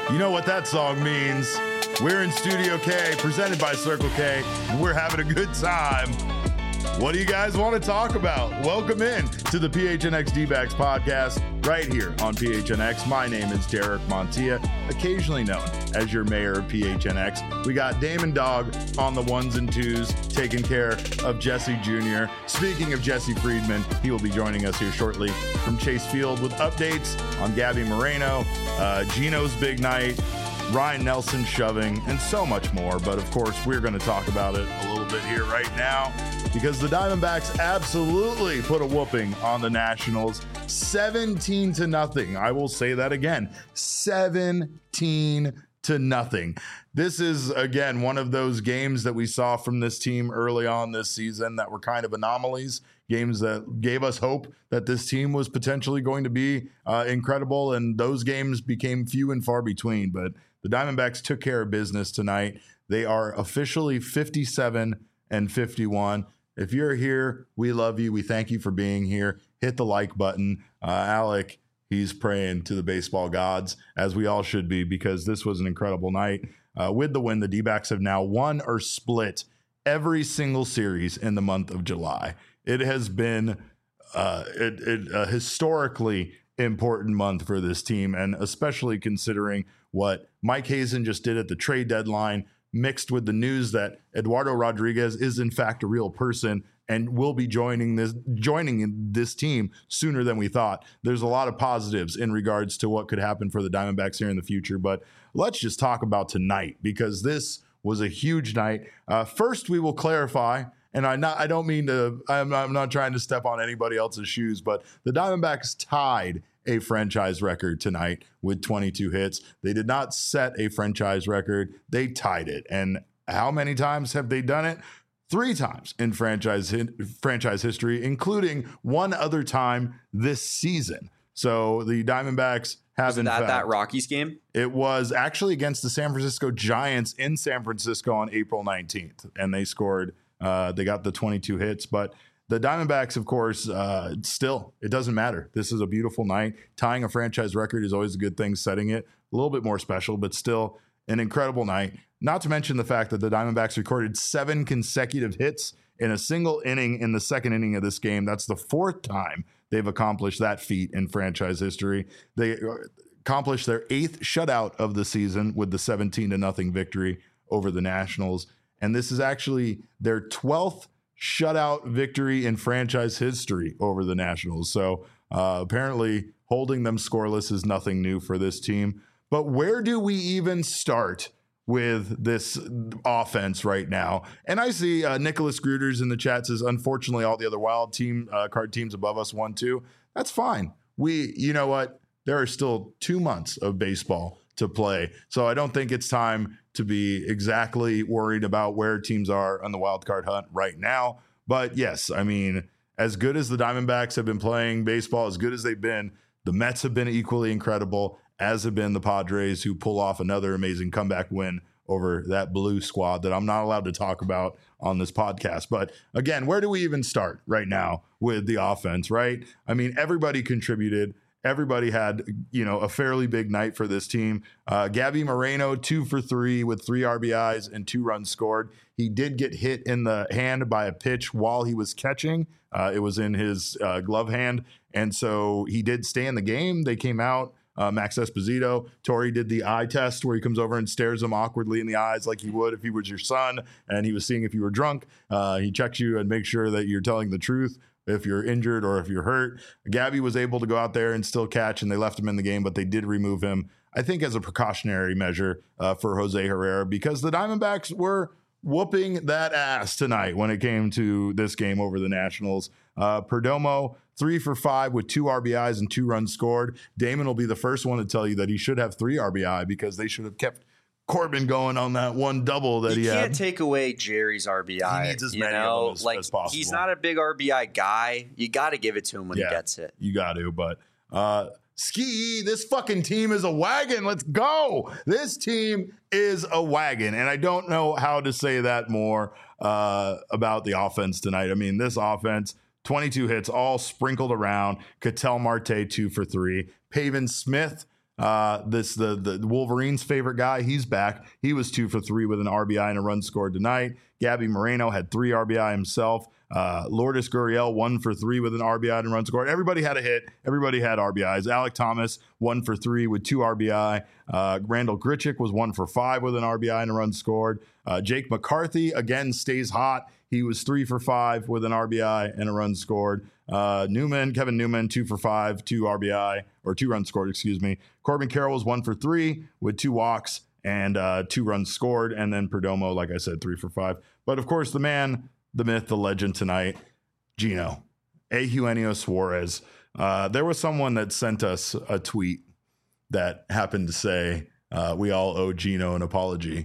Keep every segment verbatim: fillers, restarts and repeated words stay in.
You know what that song means. We're in Studio K, presented by Circle K. We're having a good time. What do you guys want to talk about? Welcome in to the P H N X D-Backs podcast right here on P H N X. My name is Derek Montilla, occasionally known as your mayor of P H N X. We got Damon Dog on the ones and twos, taking care of Jesse Junior Speaking of Jesse Friedman, he will be joining us here shortly from Chase Field with updates on Gabby Moreno, uh, Gino's big night, Ryan Nelson shoving, and so much more. But of course, we're going to talk about it a little bit here right now because the Diamondbacks absolutely put a whooping on the Nationals, seventeen to nothing. I will say that again, seventeen to nothing. This is, again, one of those games that we saw from this team early on this season that were kind of anomalies, games that gave us hope that this team was potentially going to be uh, incredible, and those games became few and far between. But the Diamondbacks took care of business tonight. They are officially fifty-seven and fifty-one. If you're here, we love you. We thank you for being here. Hit the like button. Uh, Alec, he's praying to the baseball gods, as we all should be, because this was an incredible night. Uh, with the win, the D-backs have now won or split every single series in the month of July. It has been uh, it, it, a historically important month for this team, and especially considering what Mike Hazen just did at the trade deadline, mixed with the news that Eduardo Rodriguez is in fact a real person and will be joining this joining this team sooner than we thought. There's a lot of positives in regards to what could happen for the Diamondbacks here in the future, but let's just talk about tonight, because this was a huge night. Uh, first, we will clarify, and I not I don't mean to I'm not, I'm not trying to step on anybody else's shoes, but the Diamondbacks tied a franchise record tonight with twenty-two hits. They did not set a franchise record. They tied it. And how many times have they done it? Three times in franchise franchise history, including one other time this season. So the Diamondbacks have, in fact, that Rockies game? It was actually against the San Francisco Giants in San Francisco on April nineteenth. And they scored, uh, they got the twenty-two hits. But the Diamondbacks, of course, uh, still, it doesn't matter. This is a beautiful night. Tying a franchise record is always a good thing. Setting it a little bit more special, but still an incredible night. Not to mention the fact that the Diamondbacks recorded seven consecutive hits in a single inning in the second inning of this game. That's the fourth time they've accomplished that feat in franchise history. They accomplished their eighth shutout of the season with the seventeen to nothing victory over the Nationals. And this is actually their twelfth shutout victory in franchise history over the Nationals. So uh, apparently holding them scoreless is nothing new for this team. But where do we even start with this offense right now? And I see uh, Nicholas Gruters in the chat says, unfortunately, all the other wild team uh, card teams above us won too. That's fine. We, you know what? There are still two months of baseball to play. So I don't think it's time to be exactly worried about where teams are on the wild card hunt right now. But yes, I mean, as good as the Diamondbacks have been playing baseball, as good as they've been, the Mets have been equally incredible, as have been the Padres, who pull off another amazing comeback win over that blue squad that I'm not allowed to talk about on this podcast. But again, where do we even start right now with the offense, right? I mean, everybody contributed. Everybody had, you know, a fairly big night for this team. Uh, Gabby Moreno, two for three with three R B Is and two runs scored. He did get hit in the hand by a pitch while he was catching. Uh, it was in his uh, glove hand. And so he did stay in the game. They came out. Uh, Max Esposito, Torey did the eye test where he comes over and stares him awkwardly in the eyes like he would if he was your son and he was seeing if you were drunk. Uh, he checks you and makes sure that you're telling the truth if you're injured or if you're hurt. Gabby was able to go out there and still catch, and they left him in the game, but they did remove him, I think, as a precautionary measure uh, for Jose Herrera, because the Diamondbacks were whooping that ass tonight when it came to this game over the Nationals. Uh, Perdomo, three for five with two R B Is and two runs scored. Damon will be the first one to tell you that he should have three R B I because they should have kept Corbin going on that one double that you he had. You can't take away Jerry's R B I. He needs as you many know, of them as, like, as possible. He's not a big R B I guy. You got to give it to him when yeah, he gets it. You got to, but uh, Ski, this fucking team is a wagon. Let's go. This team is a wagon. And I don't know how to say that more uh, about the offense tonight. I mean, this offense, twenty-two hits, all sprinkled around. Ketel Marte, two for three. Pavin Smith, Uh, this the the Wolverines' favorite guy. He's back. He was two for three with an R B I and a run scored tonight. Gabby Moreno had three R B I himself. Uh, Lourdes Gurriel, one for three with an R B I and a run scored. Everybody had a hit. Everybody had R B Is. Alec Thomas, one for three with two R B I. Uh, Randall Grichuk was one for five with an R B I and a run scored. Uh, Jake McCarthy, again, stays hot. He was three for five with an R B I and a run scored. Uh, Newman, Kevin Newman, two for five, two R B I, or two runs scored, excuse me. Corbin Carroll was one for three with two walks and uh, two runs scored. And then Perdomo, like I said, three for five. But of course, the man, the myth, the legend tonight, Gino, Eugenio Suarez. Uh, there was someone that sent us a tweet that happened to say, uh, we all owe Gino an apology.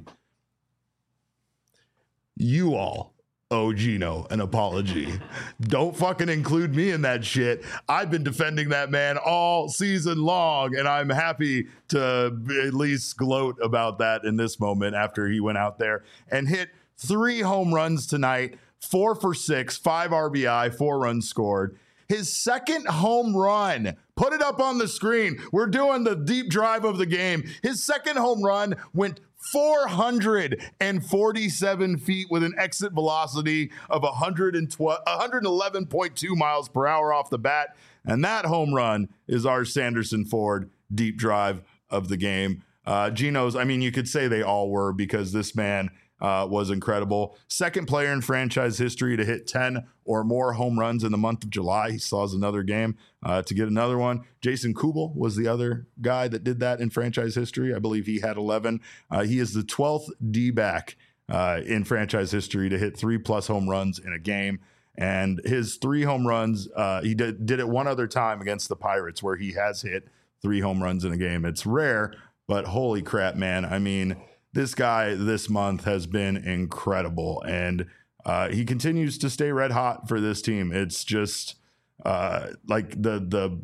You all owe Gino an apology. Don't fucking include me in that shit. I've been defending that man all season long, and I'm happy to at least gloat about that in this moment after he went out there and hit three home runs tonight, four for six, five R B I, four runs scored. His second home run, put it up on the screen. We're doing the deep drive of the game. His second home run went four hundred forty-seven feet with an exit velocity of one hundred eleven point two miles per hour off the bat. And that home run is our Sanderson Ford deep drive of the game. Uh, Gino's, I mean, you could say they all were because this man uh, was incredible. Second player in franchise history to hit ten or more home runs in the month of July. He still has another game uh, to get another one. Jason Kubel was the other guy that did that in franchise history. I believe he had eleven. Uh, he is the twelfth D-back uh, in franchise history to hit three plus home runs in a game. And his three home runs, uh, he did, did it one other time against the Pirates where he has hit three home runs in a game. It's rare, but holy crap, man. I mean, this guy this month has been incredible. And uh, he continues to stay red hot for this team. It's just uh, like the, the,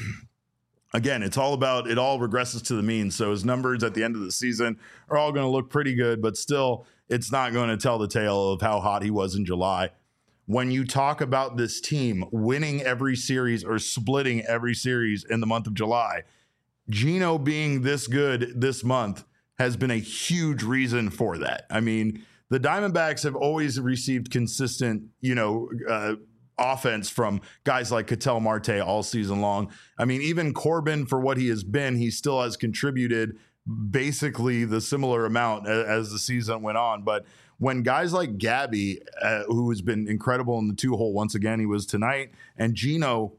again, it's all about, it all regresses to the mean. So his numbers at the end of the season are all going to look pretty good, but still it's not going to tell the tale of how hot he was in July. When you talk about this team winning every series or splitting every series in the month of July, Gino being this good this month has been a huge reason for that. I mean, the Diamondbacks have always received consistent, you know, uh, offense from guys like Ketel Marte all season long. I mean, even Corbin, for what he has been, he still has contributed basically the similar amount as, as the season went on. But when guys like Gabby, uh, who has been incredible in the two hole once again, he was tonight, and Gino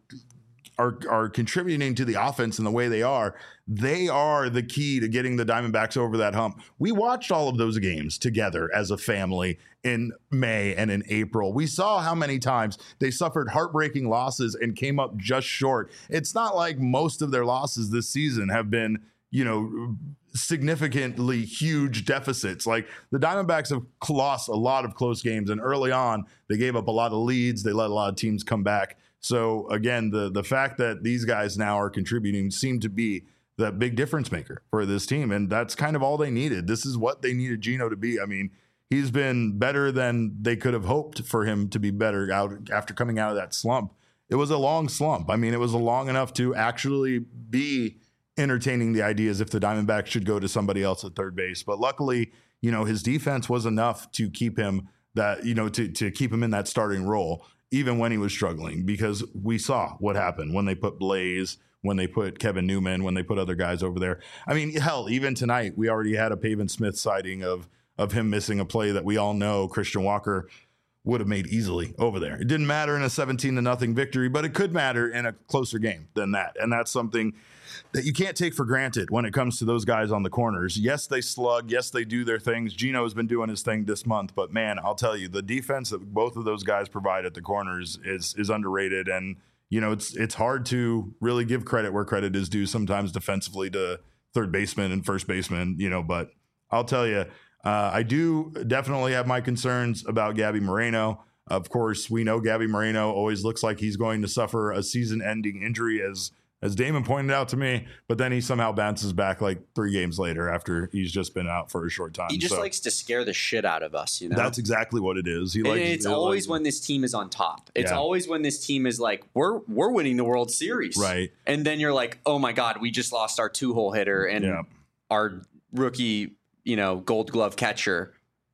are are contributing to the offense in the way they are, they are the key to getting the Diamondbacks over that hump. We watched all of those games together as a family in May and in April. We saw how many times they suffered heartbreaking losses and came up just short. It's not like most of their losses this season have been, you know, significantly huge deficits. Like the Diamondbacks have lost a lot of close games, and early on they gave up a lot of leads. They let a lot of teams come back. So again, the the fact that these guys now are contributing seem to be the big difference maker for this team, and that's kind of all they needed. This is what they needed Gino to be. I mean, he's been better than they could have hoped for him to be better out after coming out of that slump. It was a long slump. I mean, it was long enough to actually be entertaining the ideas if the Diamondbacks should go to somebody else at third base. But luckily, you know, his defense was enough to keep him that, you know, to, to keep him in that starting role, even when he was struggling, because we saw what happened when they put Blaze, when they put Kevin Newman, when they put other guys over there. I mean, hell, even tonight, we already had a Pavin Smith sighting of, of him missing a play that we all know Christian Walker would have made easily over there. It didn't matter in a seventeen to nothing victory, but it could matter in a closer game than that. And that's something that you can't take for granted when it comes to those guys on the corners. Yes, they slug. Yes, they do their things. Gino has been doing his thing this month, but man, I'll tell you, the defense that both of those guys provide at the corners is is underrated. And, you know, it's it's hard to really give credit where credit is due sometimes defensively to third baseman and first baseman, you know, but I'll tell you, uh, I do definitely have my concerns about Gabby Moreno. Of course, we know Gabby Moreno always looks like he's going to suffer a season-ending injury as as Damon pointed out to me, but then he somehow bounces back like three games later after he's just been out for a short time. He just so, likes to scare the shit out of us, you know? That's exactly what it is. He and likes, it's he always likes, when this team is on top. It's Yeah. always when this team is like, we're we're winning the World Series. Right. And then you're like, oh my God, we just lost our two-hole hitter and Yeah. our rookie, you know, gold glove catcher.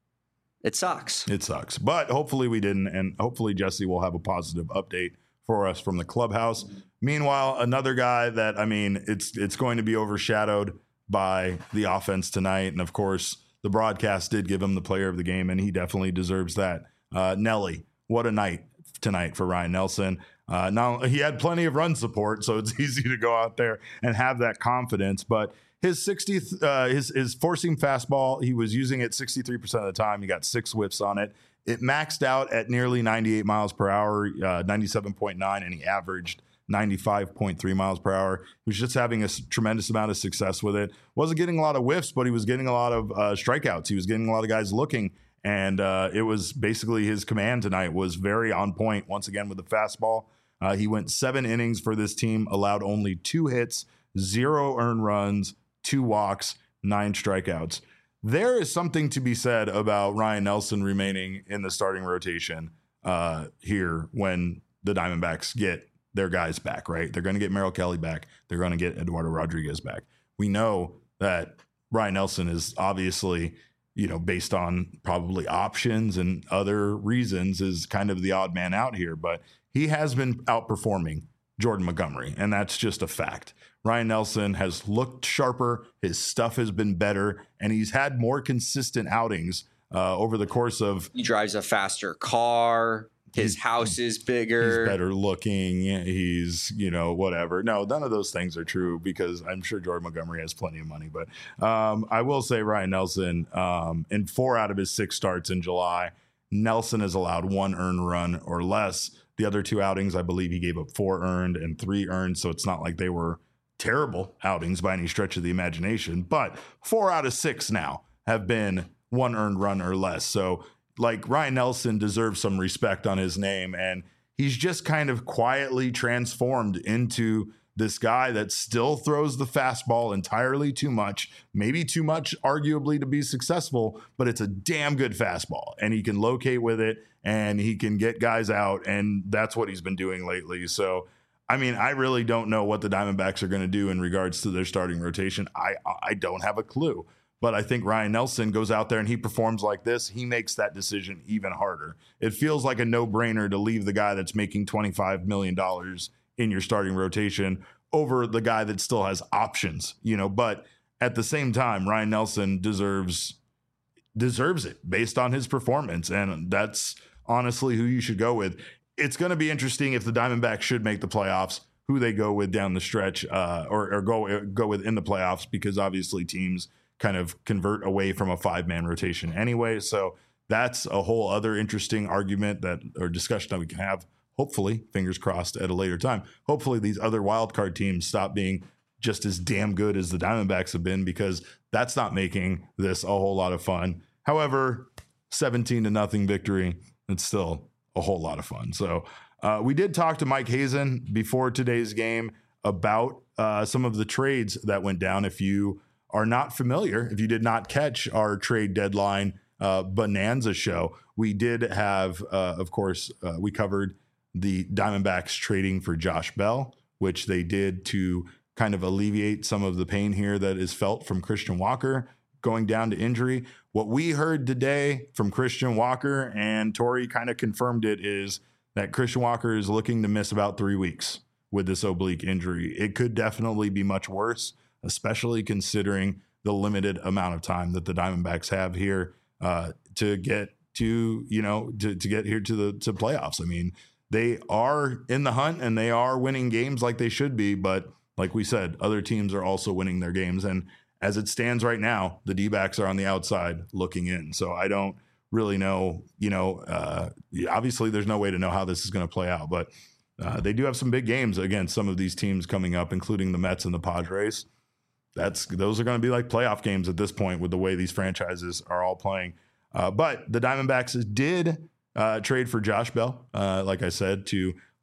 It sucks. It sucks. But hopefully we didn't, and hopefully Jesse will have a positive update for us from the clubhouse. Meanwhile, another guy that, I mean, it's it's going to be overshadowed by the offense tonight. And of course, the broadcast did give him the player of the game, and he definitely deserves that. Uh, Nelly, what a night tonight for Ryan Nelson. Uh, now, he had plenty of run support, so it's easy to go out there and have that confidence. But his sixtieth, uh, his, his four-seam fastball, he was using it sixty-three percent of the time. He got six whiffs on it. It maxed out at nearly ninety-eight miles per hour, uh, ninety-seven point nine, and he averaged ninety-five point three miles per hour. He was just having a s- tremendous amount of success with it. Wasn't getting a lot of whiffs, but he was getting a lot of uh, strikeouts. He was getting a lot of guys looking, and uh, it was basically his command tonight was very on point once again with the fastball. Uh, he went seven innings for this team, allowed only two hits, zero earned runs, two walks, nine strikeouts. There is something to be said about Ryan Nelson remaining in the starting rotation uh, here when the Diamondbacks get their guys back, right? They're going to get Merrill Kelly back. They're going to get Eduardo Rodriguez back. We know that Ryan Nelson is obviously, you know, based on probably options and other reasons, is kind of the odd man out here, but he has been outperforming Jordan Montgomery, and that's just a fact. Ryan Nelson has looked sharper, his stuff has been better, and he's had more consistent outings uh, over the course of. He drives a faster car. His He's- house is bigger. He's better looking. He's, you know, whatever. No, none of those things are true because I'm sure Jordan Montgomery has plenty of money. But um, I will say Ryan Nelson, um, in four out of his six starts in July, Nelson has allowed one earned run or less. The other two outings, I believe he gave up four earned and three earned. So it's not like they were terrible outings by any stretch of the imagination. But four out of six now have been one earned run or less. So like Ryan Nelson deserves some respect on his name, and he's just kind of quietly transformed into this guy that still throws the fastball entirely too much, maybe too much arguably to be successful, but it's a damn good fastball and he can locate with it and he can get guys out, and that's what he's been doing lately. So I mean, I really don't know what the Diamondbacks are going to do in regards to their starting rotation. I I don't have a clue. But I think Ryan Nelson goes out there and he performs like this. He makes that decision even harder. It feels like a no-brainer to leave the guy that's making twenty-five million dollars in your starting rotation over the guy that still has options, you know. But at the same time, Ryan Nelson deserves deserves it based on his performance. And that's honestly who you should go with. It's going to be interesting if the Diamondbacks should make the playoffs, who they go with down the stretch uh, or, or go, go with in the playoffs, because obviously teams kind of convert away from a five-man rotation anyway. So that's a whole other interesting argument that or discussion that we can have, hopefully, fingers crossed, at a later time. Hopefully these other wildcard teams stop being just as damn good as the Diamondbacks have been, because that's not making this a whole lot of fun. However, seventeen to nothing victory, it's still a whole lot of fun. So uh, we did talk to Mike Hazen before today's game about uh, some of the trades that went down. If you are not familiar, if you did not catch our trade deadline uh, bonanza show, we did have, uh, of course, uh, we covered the Diamondbacks trading for Josh Bell, which they did to kind of alleviate some of the pain here that is felt from Christian Walker going down to injury. What we heard today from Christian Walker, and Tori kind of confirmed it, is that Christian Walker is looking to miss about three weeks with this oblique injury. It could definitely be much worse, especially considering the limited amount of time that the Diamondbacks have here uh, to get to, you know, to, to get here to the to playoffs. I mean, they are in the hunt and they are winning games like they should be. But like we said, other teams are also winning their games. And as it stands right now, the D-backs are on the outside looking in. So I don't really know, you know, uh, obviously there's no way to know how this is going to play out, but uh, they do have some big games against some of these teams coming up, including the Mets and the Padres. That's those are going to be like playoff games at this point with the way these franchises are all playing. Uh, but the Diamondbacks did uh, trade for Josh Bell, uh, like I said, to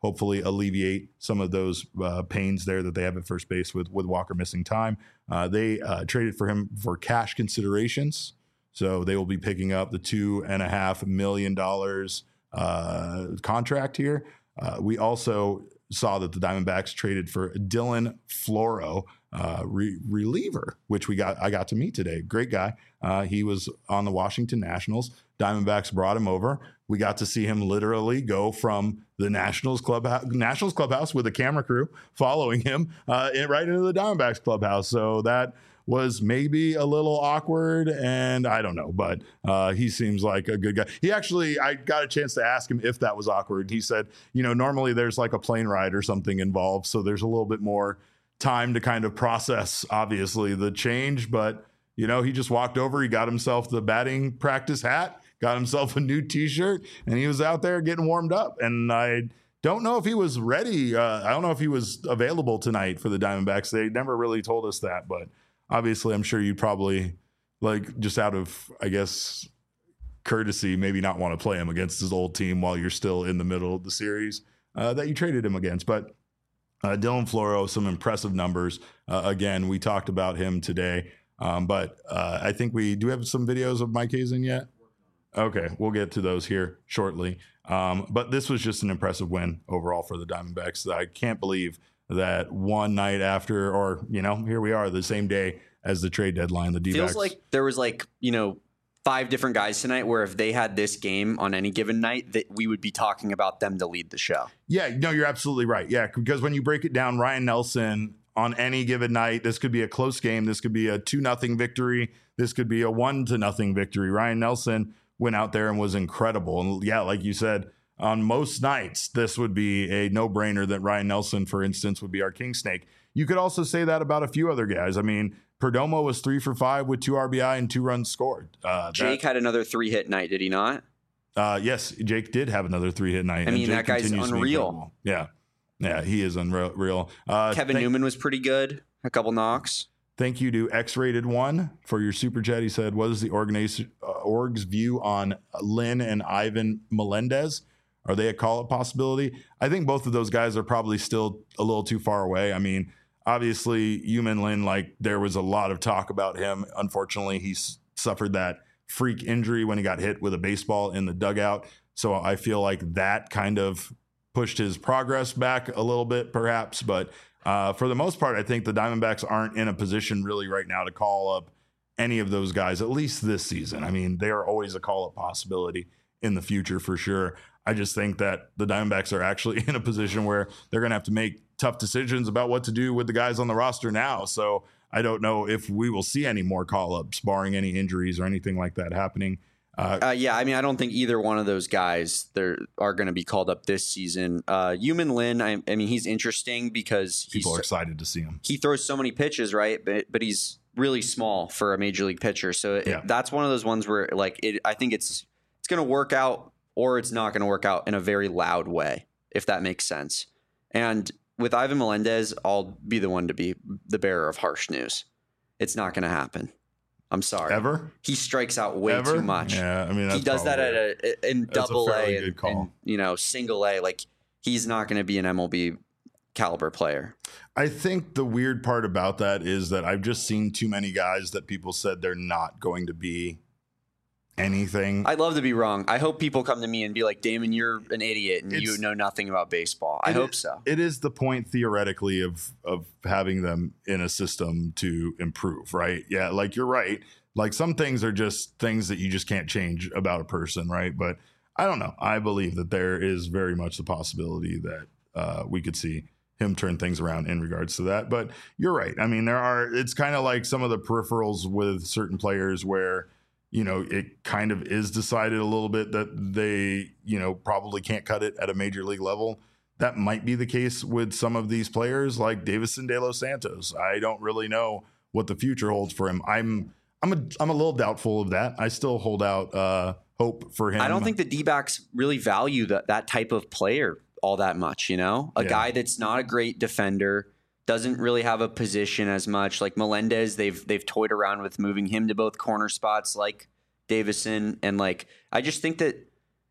hopefully alleviate some of those uh, pains there that they have at first base with, with Walker missing time. Uh, they uh, traded for him for cash considerations. So they will be picking up the two and a half million dollars uh, contract here. Uh, we also saw that the Diamondbacks traded for Dylan Floro, uh, re- reliever, which we got. I got to meet today. Great guy. Uh, he was on the Washington Nationals. Diamondbacks brought him over. We got to see him literally go from the Nationals clubhouse, Nationals clubhouse with a camera crew following him uh, in, right into the Diamondbacks clubhouse. So that was maybe a little awkward, and I don't know, but uh, he seems like a good guy. He actually, I got a chance to ask him if that was awkward. He said, you know, normally there's like a plane ride or something involved, so there's a little bit more time to kind of process, obviously, the change, but, you know, he just walked over, he got himself the batting practice hat, got himself a new t-shirt, and he was out there getting warmed up, and I don't know if he was ready. Uh, I don't know if he was available tonight for the Diamondbacks. They never really told us that, but obviously, I'm sure you'd probably, like, just out of, I guess, courtesy, maybe not want to play him against his old team while you're still in the middle of the series uh, that you traded him against. But uh, Dylan Floro, some impressive numbers. Uh, again, we talked about him today. Um, but uh, I think we do have some videos of Mike Hazen yet? Okay, we'll get to those here shortly. Um, but this was just an impressive win overall for the Diamondbacks. I can't believe that one night after, or, you know, here we are the same day as the trade deadline, the D-backs. Feels like there was like, you know, five different guys tonight where if they had this game on any given night, that we would be talking about them to lead the show. Yeah, no, you're absolutely right. Yeah, because when you break it down, Ryan Nelson on any given night, this could be a close game. This could be a two nothing victory. This could be a one to nothing victory. Ryan Nelson went out there and was incredible. And yeah, like you said, on most nights, this would be a no-brainer that Ryan Nelson, for instance, would be our king snake. You could also say that about a few other guys. I mean, Perdomo was three for five with two R B I and two runs scored. Uh, Jake that, had another three-hit night, did he not? Uh, yes, Jake did have another three-hit night. I mean, and that guy's unreal. Yeah, yeah, he is unreal. Uh, Kevin thank, Newman was pretty good. A couple knocks. Thank you to X-Rated One for your super chat. He said, what is the organiz- uh, org's view on Lynn and Ivan Melendez? Are they a call-up possibility? I think both of those guys are probably still a little too far away. I mean, obviously, Yumin Lin, like, there was a lot of talk about him. Unfortunately, he s- suffered that freak injury when he got hit with a baseball in the dugout. So I feel like that kind of pushed his progress back a little bit, perhaps. But uh, for the most part, I think the Diamondbacks aren't in a position really right now to call up any of those guys, at least this season. I mean, they are always a call-up possibility in the future for sure. I just think that the Diamondbacks are actually in a position where they're going to have to make tough decisions about what to do with the guys on the roster now. So I don't know if we will see any more call-ups, barring any injuries or anything like that happening. Uh, uh, yeah, I mean, I don't think either one of those guys there are going to be called up this season. Uh, Yumin Lin, I, I mean, he's interesting because he's, people are excited to see him. He throws so many pitches, right? But but he's really small for a major league pitcher. So it, yeah. that's one of those ones where, like, it, I think it's it's going to work out. Or it's not going to work out in a very loud way, if that makes sense. And with Ivan Melendez, I'll be the one to be the bearer of harsh news. It's not going to happen. I'm sorry. Ever? He strikes out way Ever? too much. Yeah, I mean, that's he does that at a in double a, a and, and you know single A. Like, he's not going to be an M L B caliber player. I think the weird part about that is that I've just seen too many guys that people said they're not going to be anything. I'd love to be wrong. I hope people come to me and be like, Damon, you're an idiot and it's, you know nothing about baseball. I hope is, so. It is the point theoretically of of having them in a system to improve, right? Yeah, like you're right. Like some things are just things that you just can't change about a person, right? But I don't know. I believe that there is very much the possibility that uh, we could see him turn things around in regards to that. But you're right. I mean, there are, it's kind of like some of the peripherals with certain players where, you know, it kind of is decided a little bit that they, you know, probably can't cut it at a major league level. That might be the case with some of these players like Davison De Los Santos. I don't really know what the future holds for him. I'm, I'm a, I'm a little doubtful of that. I still hold out uh, hope for him. I don't think the D-backs really value that, that type of player all that much, you know, a yeah. guy that's not a great defender, doesn't really have a position as much. Like Melendez, they've they've toyed around with moving him to both corner spots like Davison. And like, I just think that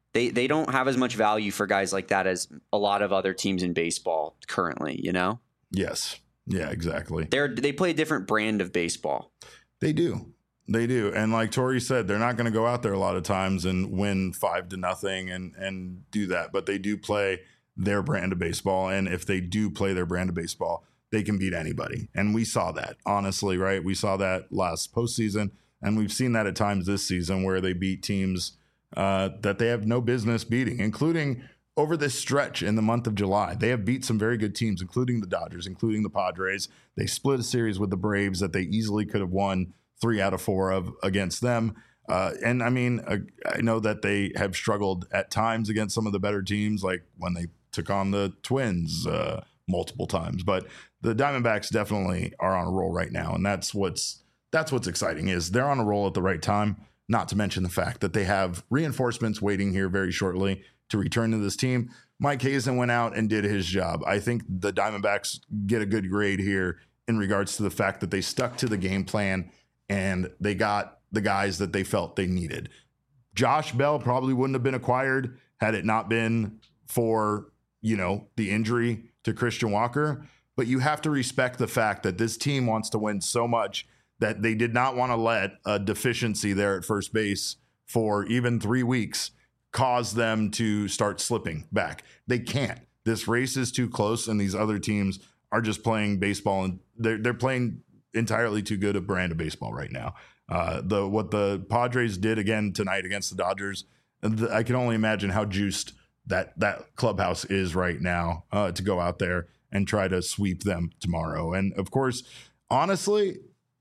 they they don't have as much value for guys like that as a lot of other teams in baseball currently, you know? Yes. Yeah, exactly. They're they play a different brand of baseball. They do. They do. And like Tori said, they're not going to go out there a lot of times and win five to nothing and and do that, but they do play their brand of baseball, and if they do play their brand of baseball, they can beat anybody. And we saw that, honestly, right? We saw that last postseason, and we've seen that at times this season where they beat teams uh, that they have no business beating, including over this stretch in the month of July. They have beat some very good teams, including the Dodgers, including the Padres. They split a series with the Braves that they easily could have won three out of four of against them. Uh, and I mean, uh, I know that they have struggled at times against some of the better teams, like when they took on the Twins uh, multiple times. But the Diamondbacks definitely are on a roll right now, and that's what's that's what's exciting is they're on a roll at the right time. Not to mention the fact that they have reinforcements waiting here very shortly to return to this team. Mike Hazen went out and did his job. I think the Diamondbacks get a good grade here in regards to the fact that they stuck to the game plan and they got the guys that they felt they needed. Josh Bell probably wouldn't have been acquired had it not been for, you know, the injury to Christian Walker. But you have to respect the fact that this team wants to win so much that they did not want to let a deficiency there at first base for even three weeks cause them to start slipping back. They can't. This race is too close, and these other teams are just playing baseball, and they're they're playing entirely too good a brand of baseball right now. Uh, the what the Padres did again tonight against the Dodgers, the, I can only imagine how juiced that that clubhouse is right now uh, to go out there and try to sweep them tomorrow. And of course, honestly,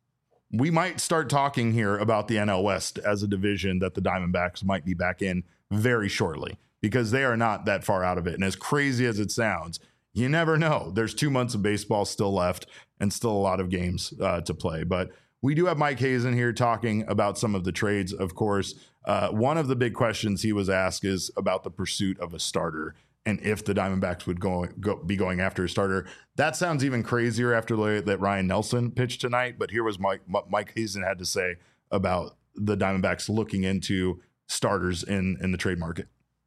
we might start talking here about the N L West as a division that the Diamondbacks might be back in very shortly, because they are not that far out of it. And as crazy as it sounds, you never know. There's two months of baseball still left and still a lot of games uh, to play. But we do have Mike Hazen here talking about some of the trades, of course. Uh, one of the big questions he was asked is about the pursuit of a starter and if the Diamondbacks would go, go be going after a starter. That sounds even crazier after the, that Ryan Nelson pitched tonight. But here was Mike, Mike Hazen had to say about the Diamondbacks looking into starters in, in the trade market.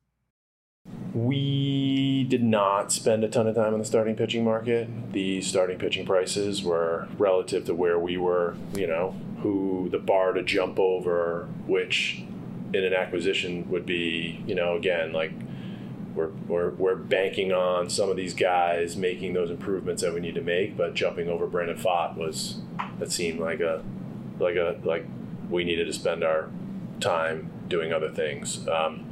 We did not spend a ton of time on the starting pitching market. The starting pitching prices were relative to where we were, you know, who the bar to jump over, which in an acquisition would be, you know, again, like we're, we're, we're banking on some of these guys making those improvements that we need to make, but jumping over Brandon Pfaadt was, that seemed like a, like a, like we needed to spend our time doing other things. Um,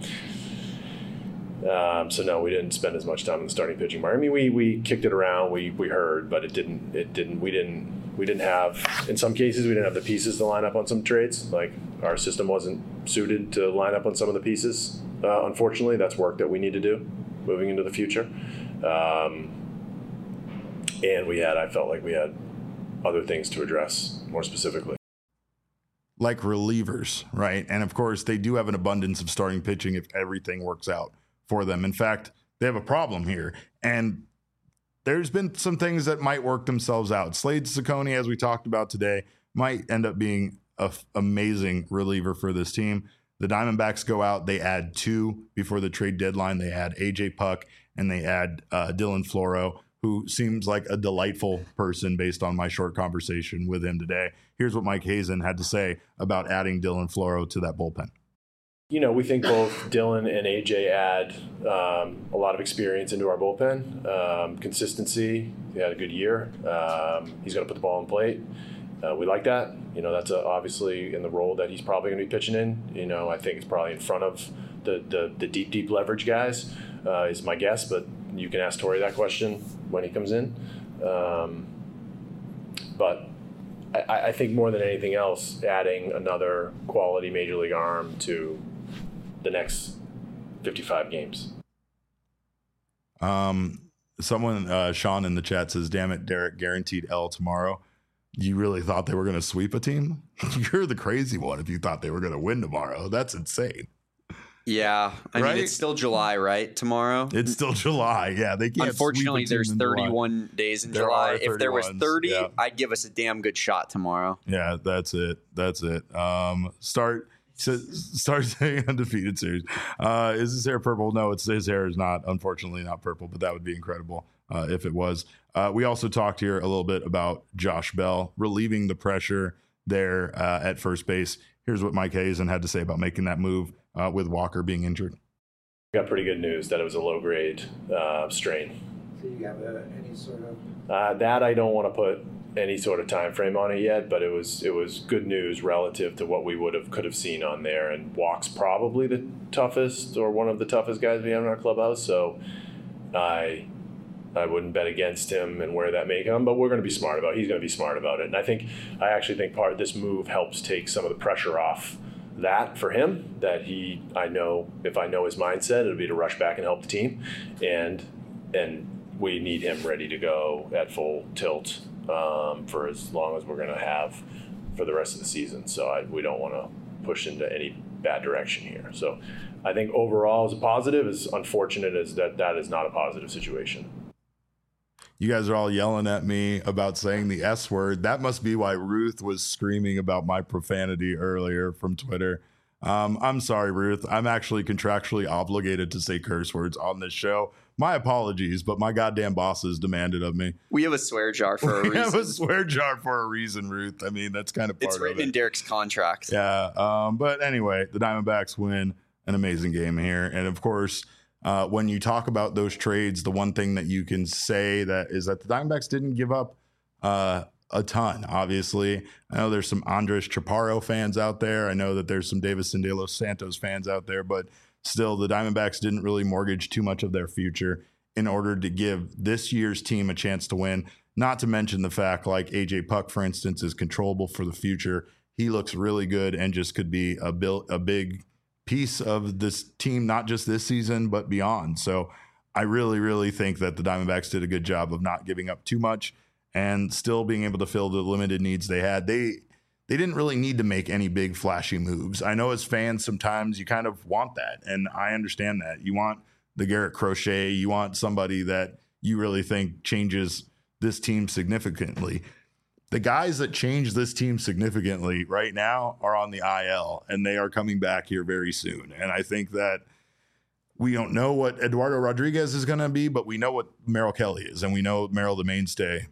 Um, so no, we didn't spend as much time on the starting pitching market. I mean, we we kicked it around, we we heard, but it didn't it didn't we didn't we didn't have in some cases we didn't have the pieces to line up on some trades. Like our system wasn't suited to line up on some of the pieces. Uh, unfortunately, that's work that we need to do moving into the future. Um, and we had, I felt like we had other things to address more specifically. Like relievers, right? And of course, they do have an abundance of starting pitching if everything works out for them. In fact, they have a problem here. And there's been some things that might work themselves out. Slade Cecconi, as we talked about today, might end up being an f- amazing reliever for this team. The Diamondbacks go out, they add two before the trade deadline. They add A J Puck and they add uh, Dylan Floro, who seems like a delightful person based on my short conversation with him today. Here's what Mike Hazen had to say about adding Dylan Floro to that bullpen. You know, we think both Dylan and A J add um, a lot of experience into our bullpen. Um, consistency, he had a good year. Um, he's going to put the ball on plate. Uh, we like that. You know, that's a, obviously in the role that he's probably going to be pitching in. You know, I think it's probably in front of the, the, the deep, deep leverage guys uh, is my guess, but you can ask Tori that question when he comes in. Um, but I, I think more than anything else, adding another quality major league arm to the next fifty-five games. Um, someone, uh, Sean in the chat says, damn it, Derek, guaranteed L tomorrow. You really thought they were going to sweep a team? You're the crazy one if you thought they were going to win tomorrow. That's insane. Yeah. I right? mean, it's still July, right? Tomorrow? It's still July. Yeah. They can't. Unfortunately, there's thirty-one July. Days in there July. If there was thirty, yeah. I'd give us a damn good shot tomorrow. Yeah, that's it. That's it. Um, start So start saying undefeated series. Uh, is his hair purple? No, it's his hair is not, unfortunately, not purple, but that would be incredible uh, if it was. Uh, we also talked here a little bit about Josh Bell relieving the pressure there uh, at first base. Here's what Mike Hazen had to say about making that move uh, with Walker being injured. Got pretty good news that it was a low grade uh, strain. So you have a, any sort of uh, that I don't want to put any sort of time frame on it yet, but it was it was good news relative to what we would have could have seen on there. And Walk's probably the toughest or one of the toughest guys we have in our clubhouse, so I I wouldn't bet against him and where that may come, but we're going to be smart about it. He's going to be smart about it. And I think I actually think part of this move helps take some of the pressure off that for him, that he I know if I know his mindset, it'll be to rush back and help the team, and and we need him ready to go at full tilt um, for as long as we're going to have for the rest of the season. So I, we don't want to push into any bad direction here. So I think overall as a positive, as unfortunate as that that is not a positive situation. You guys are all yelling at me about saying the S word. That must be why Ruth was screaming about my profanity earlier from Twitter. Um, I'm sorry, Ruth. I'm actually contractually obligated to say curse words on this show. My apologies, but my goddamn bosses demanded of me. We have a swear jar for a we reason. We have a swear jar for a reason, Ruth. I mean, that's kind of part it's of it. It's written in Derek's contract. Yeah. Um, but anyway, the Diamondbacks win an amazing game here. And of course, uh, when you talk about those trades, the one thing that you can say that is that the Diamondbacks didn't give up uh, a ton, obviously. I know there's some Andres Chaparro fans out there. I know that there's some Davison De Los Santos fans out there, but still, the Diamondbacks didn't really mortgage too much of their future in order to give this year's team a chance to win. Not to mention the fact, like A J Puck, for instance, is controllable for the future. He looks really good and just could be a, bil- a big piece of this team, not just this season, but beyond. So I really, really think that the Diamondbacks did a good job of not giving up too much and still being able to fill the limited needs they had. They they didn't really need to make any big flashy moves. I know as fans, sometimes you kind of want that, and I understand that. You want the Garrett Crochet, you want somebody that you really think changes this team significantly. The guys that change this team significantly right now are on the I L, and they are coming back here very soon. And I think that we don't know what Eduardo Rodriguez is going to be, but we know what Merrill Kelly is, and we know Merrill, the mainstay,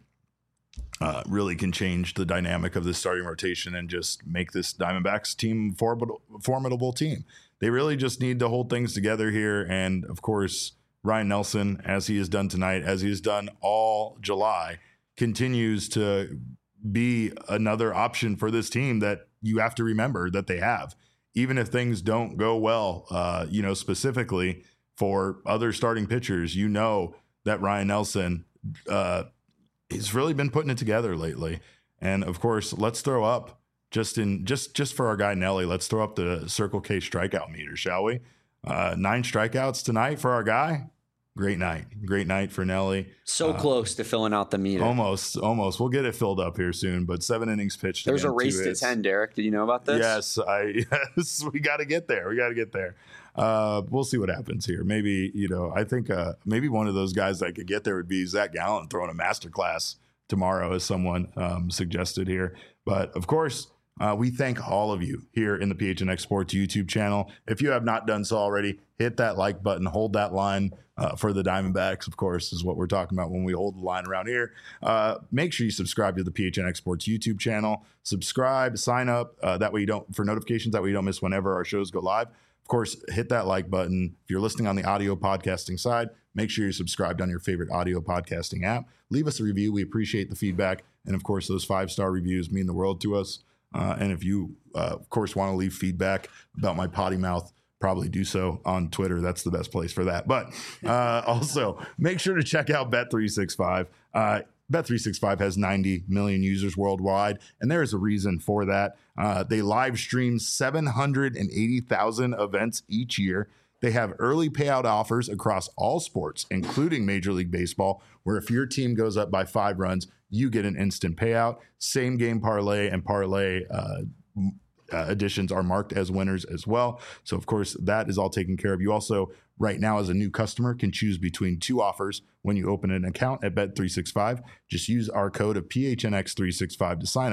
uh, really can change the dynamic of this starting rotation and just make this Diamondbacks team formidable, formidable team. They really just need to hold things together here. And of course, Ryan Nelson, as he has done tonight, as he has done all July, continues to be another option for this team that you have to remember that they have. Even if things don't go well, uh, you know, specifically for other starting pitchers, you know that Ryan Nelson uh, has really been putting it together lately. And of course, let's throw up just in just just for our guy Nelly. Let's throw up the Circle K strikeout meter, shall we? Uh, nine strikeouts tonight for our guy. Great night. Great night for Nelly. So uh, close to filling out the meter. Almost, almost. We'll get it filled up here soon, but seven innings pitched. There's again, a race to hits. ten, Derek. Did you know about this? Yes, I yes, we got to get there. We got to get there. Uh, we'll see what happens here. Maybe, you know, I think uh, maybe one of those guys that could get there would be Zach Gallen throwing a masterclass tomorrow, as someone um, suggested here. But of course, Uh, we thank all of you here in the P H N X Sports YouTube channel. If you have not done so already, hit that like button, hold that line uh, for the Diamondbacks, of course, is what we're talking about when we hold the line around here. Uh, make sure you subscribe to the P H N X Sports YouTube channel. Subscribe, sign up, uh, that way you don't, for notifications, that way you don't miss whenever our shows go live. Of course, hit that like button. If you're listening on the audio podcasting side, make sure you're subscribed on your favorite audio podcasting app. Leave us a review. We appreciate the feedback. And of course, those five-star reviews mean the world to us. Uh, and if you, uh, of course, want to leave feedback about my potty mouth, probably do so on Twitter. That's the best place for that. But uh, also, make sure to check out Bet three sixty-five. Uh, Bet three sixty-five has ninety million users worldwide, and there is a reason for that. Uh, they live stream seven hundred eighty thousand events each year. They have early payout offers across all sports, including Major League Baseball, where if your team goes up by five runs, you get an instant payout. Same game parlay and parlay uh, uh, additions are marked as winners as well. So, of course, that is all taken care of. You also, right now, as a new customer, can choose between two offers when you open an account at Bet three sixty-five. Just use our code of P H N X three sixty-five to sign up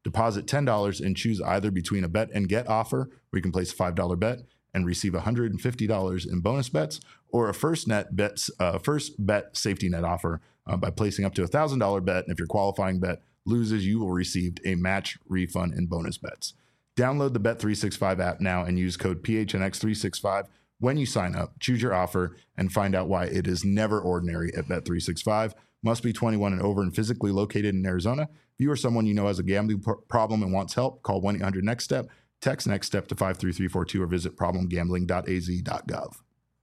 Deposit ten dollars and choose either between a bet and get offer, where you can place a five dollar bet and receive one hundred fifty dollars in bonus bets, or a first net bets, uh, first bet safety net offer uh, by placing up to a one thousand dollars bet. And if your qualifying bet loses, you will receive a match refund in bonus bets. Download the Bet three sixty-five app now and use code P H N X three sixty-five when you sign up. Choose your offer and find out why it is never ordinary at Bet three sixty-five. Must be twenty-one and over and physically located in Arizona. If you or someone you know has a gambling pro- problem and wants help, call one eight hundred next step, text next step to five three three four two, or visit problem gambling dot a z dot gov.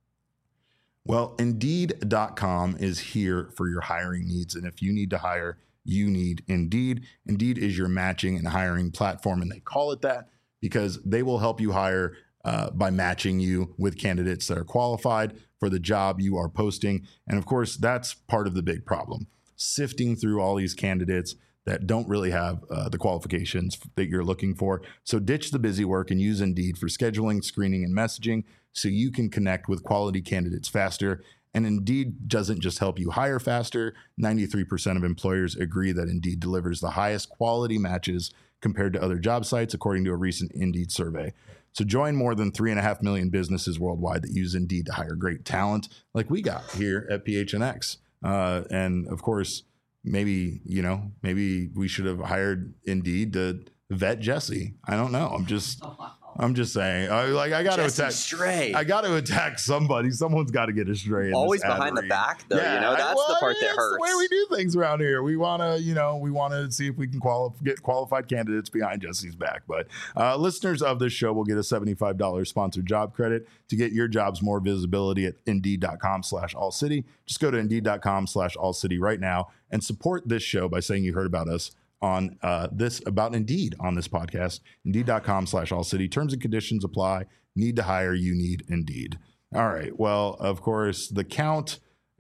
Well, Indeed dot com is here for your hiring needs. And if you need to hire, you need Indeed. Indeed is your matching and hiring platform, and they call it that because they will help you hire uh, by matching you with candidates that are qualified for the job you are posting. And of course, that's part of the big problem. Sifting through all these candidates that don't really have uh, the qualifications that you're looking for. So ditch the busy work and use Indeed for scheduling, screening, and messaging so you can connect with quality candidates faster. And Indeed doesn't just help you hire faster. ninety-three percent of employers agree that Indeed delivers the highest quality matches compared to other job sites, according to a recent Indeed survey. So join more than three and a half million businesses worldwide that use Indeed to hire great talent like we got here at P H N X. Uh, and of course, maybe, you know, maybe we should have hired Indeed to vet Jesse. I don't know. I'm just... I'm just saying, I, like I got to attack. Stray. I got to attack somebody. Someone's got to get a stray. In Always this ad behind read. the back, though. Yeah, you know, that's I, well, the part that that's hurts. The way we do things around here. We want to, you know, we want to see if we can quali- get qualified candidates behind Jesse's back. But uh, listeners of this show will get a seventy-five dollars sponsored job credit to get your jobs more visibility at Indeed dot com slash all city. Just go to Indeed dot com slash all city right now and support this show by saying you heard about us on uh, this about Indeed on this podcast. Indeed dot com slash all city. Terms and conditions apply. Need to hire, you need Indeed. All right. Well, of course, the count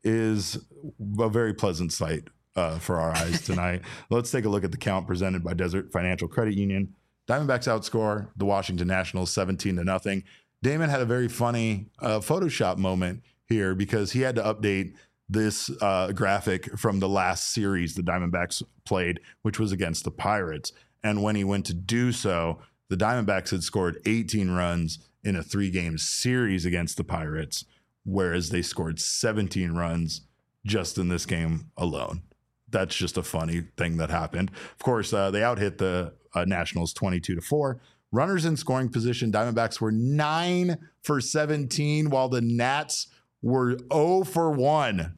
is a very pleasant sight uh, for our eyes tonight. Let's take a look at the count presented by Desert Financial Credit Union. Diamondbacks outscore the Washington Nationals seventeen to nothing. Damon had a very funny uh, Photoshop moment here because he had to update this uh, graphic from the last series the Diamondbacks played, which was against the Pirates. And when he went to do so, the Diamondbacks had scored eighteen runs in a three-game series against the Pirates, whereas they scored seventeen runs just in this game alone. That's just a funny thing that happened. Of course, uh, they outhit the uh, Nationals twenty-two to four. Runners in scoring position, Diamondbacks were nine for seventeen, while the Nats were zero for one.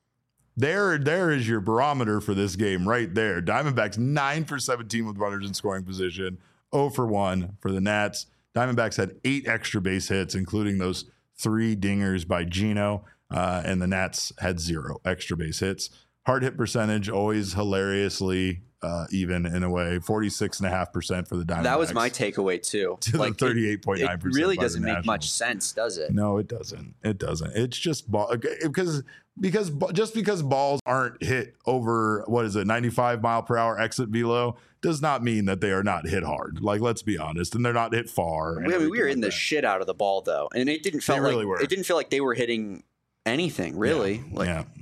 There, there is your barometer for this game right there. Diamondbacks nine for seventeen with runners in scoring position, zero for one for the Nats. Diamondbacks had eight extra base hits, including those three dingers by Gino, uh, and the Nats had zero extra base hits. Hard hit percentage, always hilariously uh, even in a way, forty-six point five percent for the Diamondbacks. That was my takeaway, too. To like, the thirty-eight point nine percent. It really doesn't make much sense, does it? No, it doesn't. It doesn't. It's just ball because because just because balls aren't hit over what is it, ninety-five mile per hour exit velo does not mean that they are not hit hard. Like, let's be honest, and they're not hit far. We, we were in the shit out of the ball though, and it didn't feel really like were. it didn't feel like they were hitting anything really. Yeah. Like, yeah.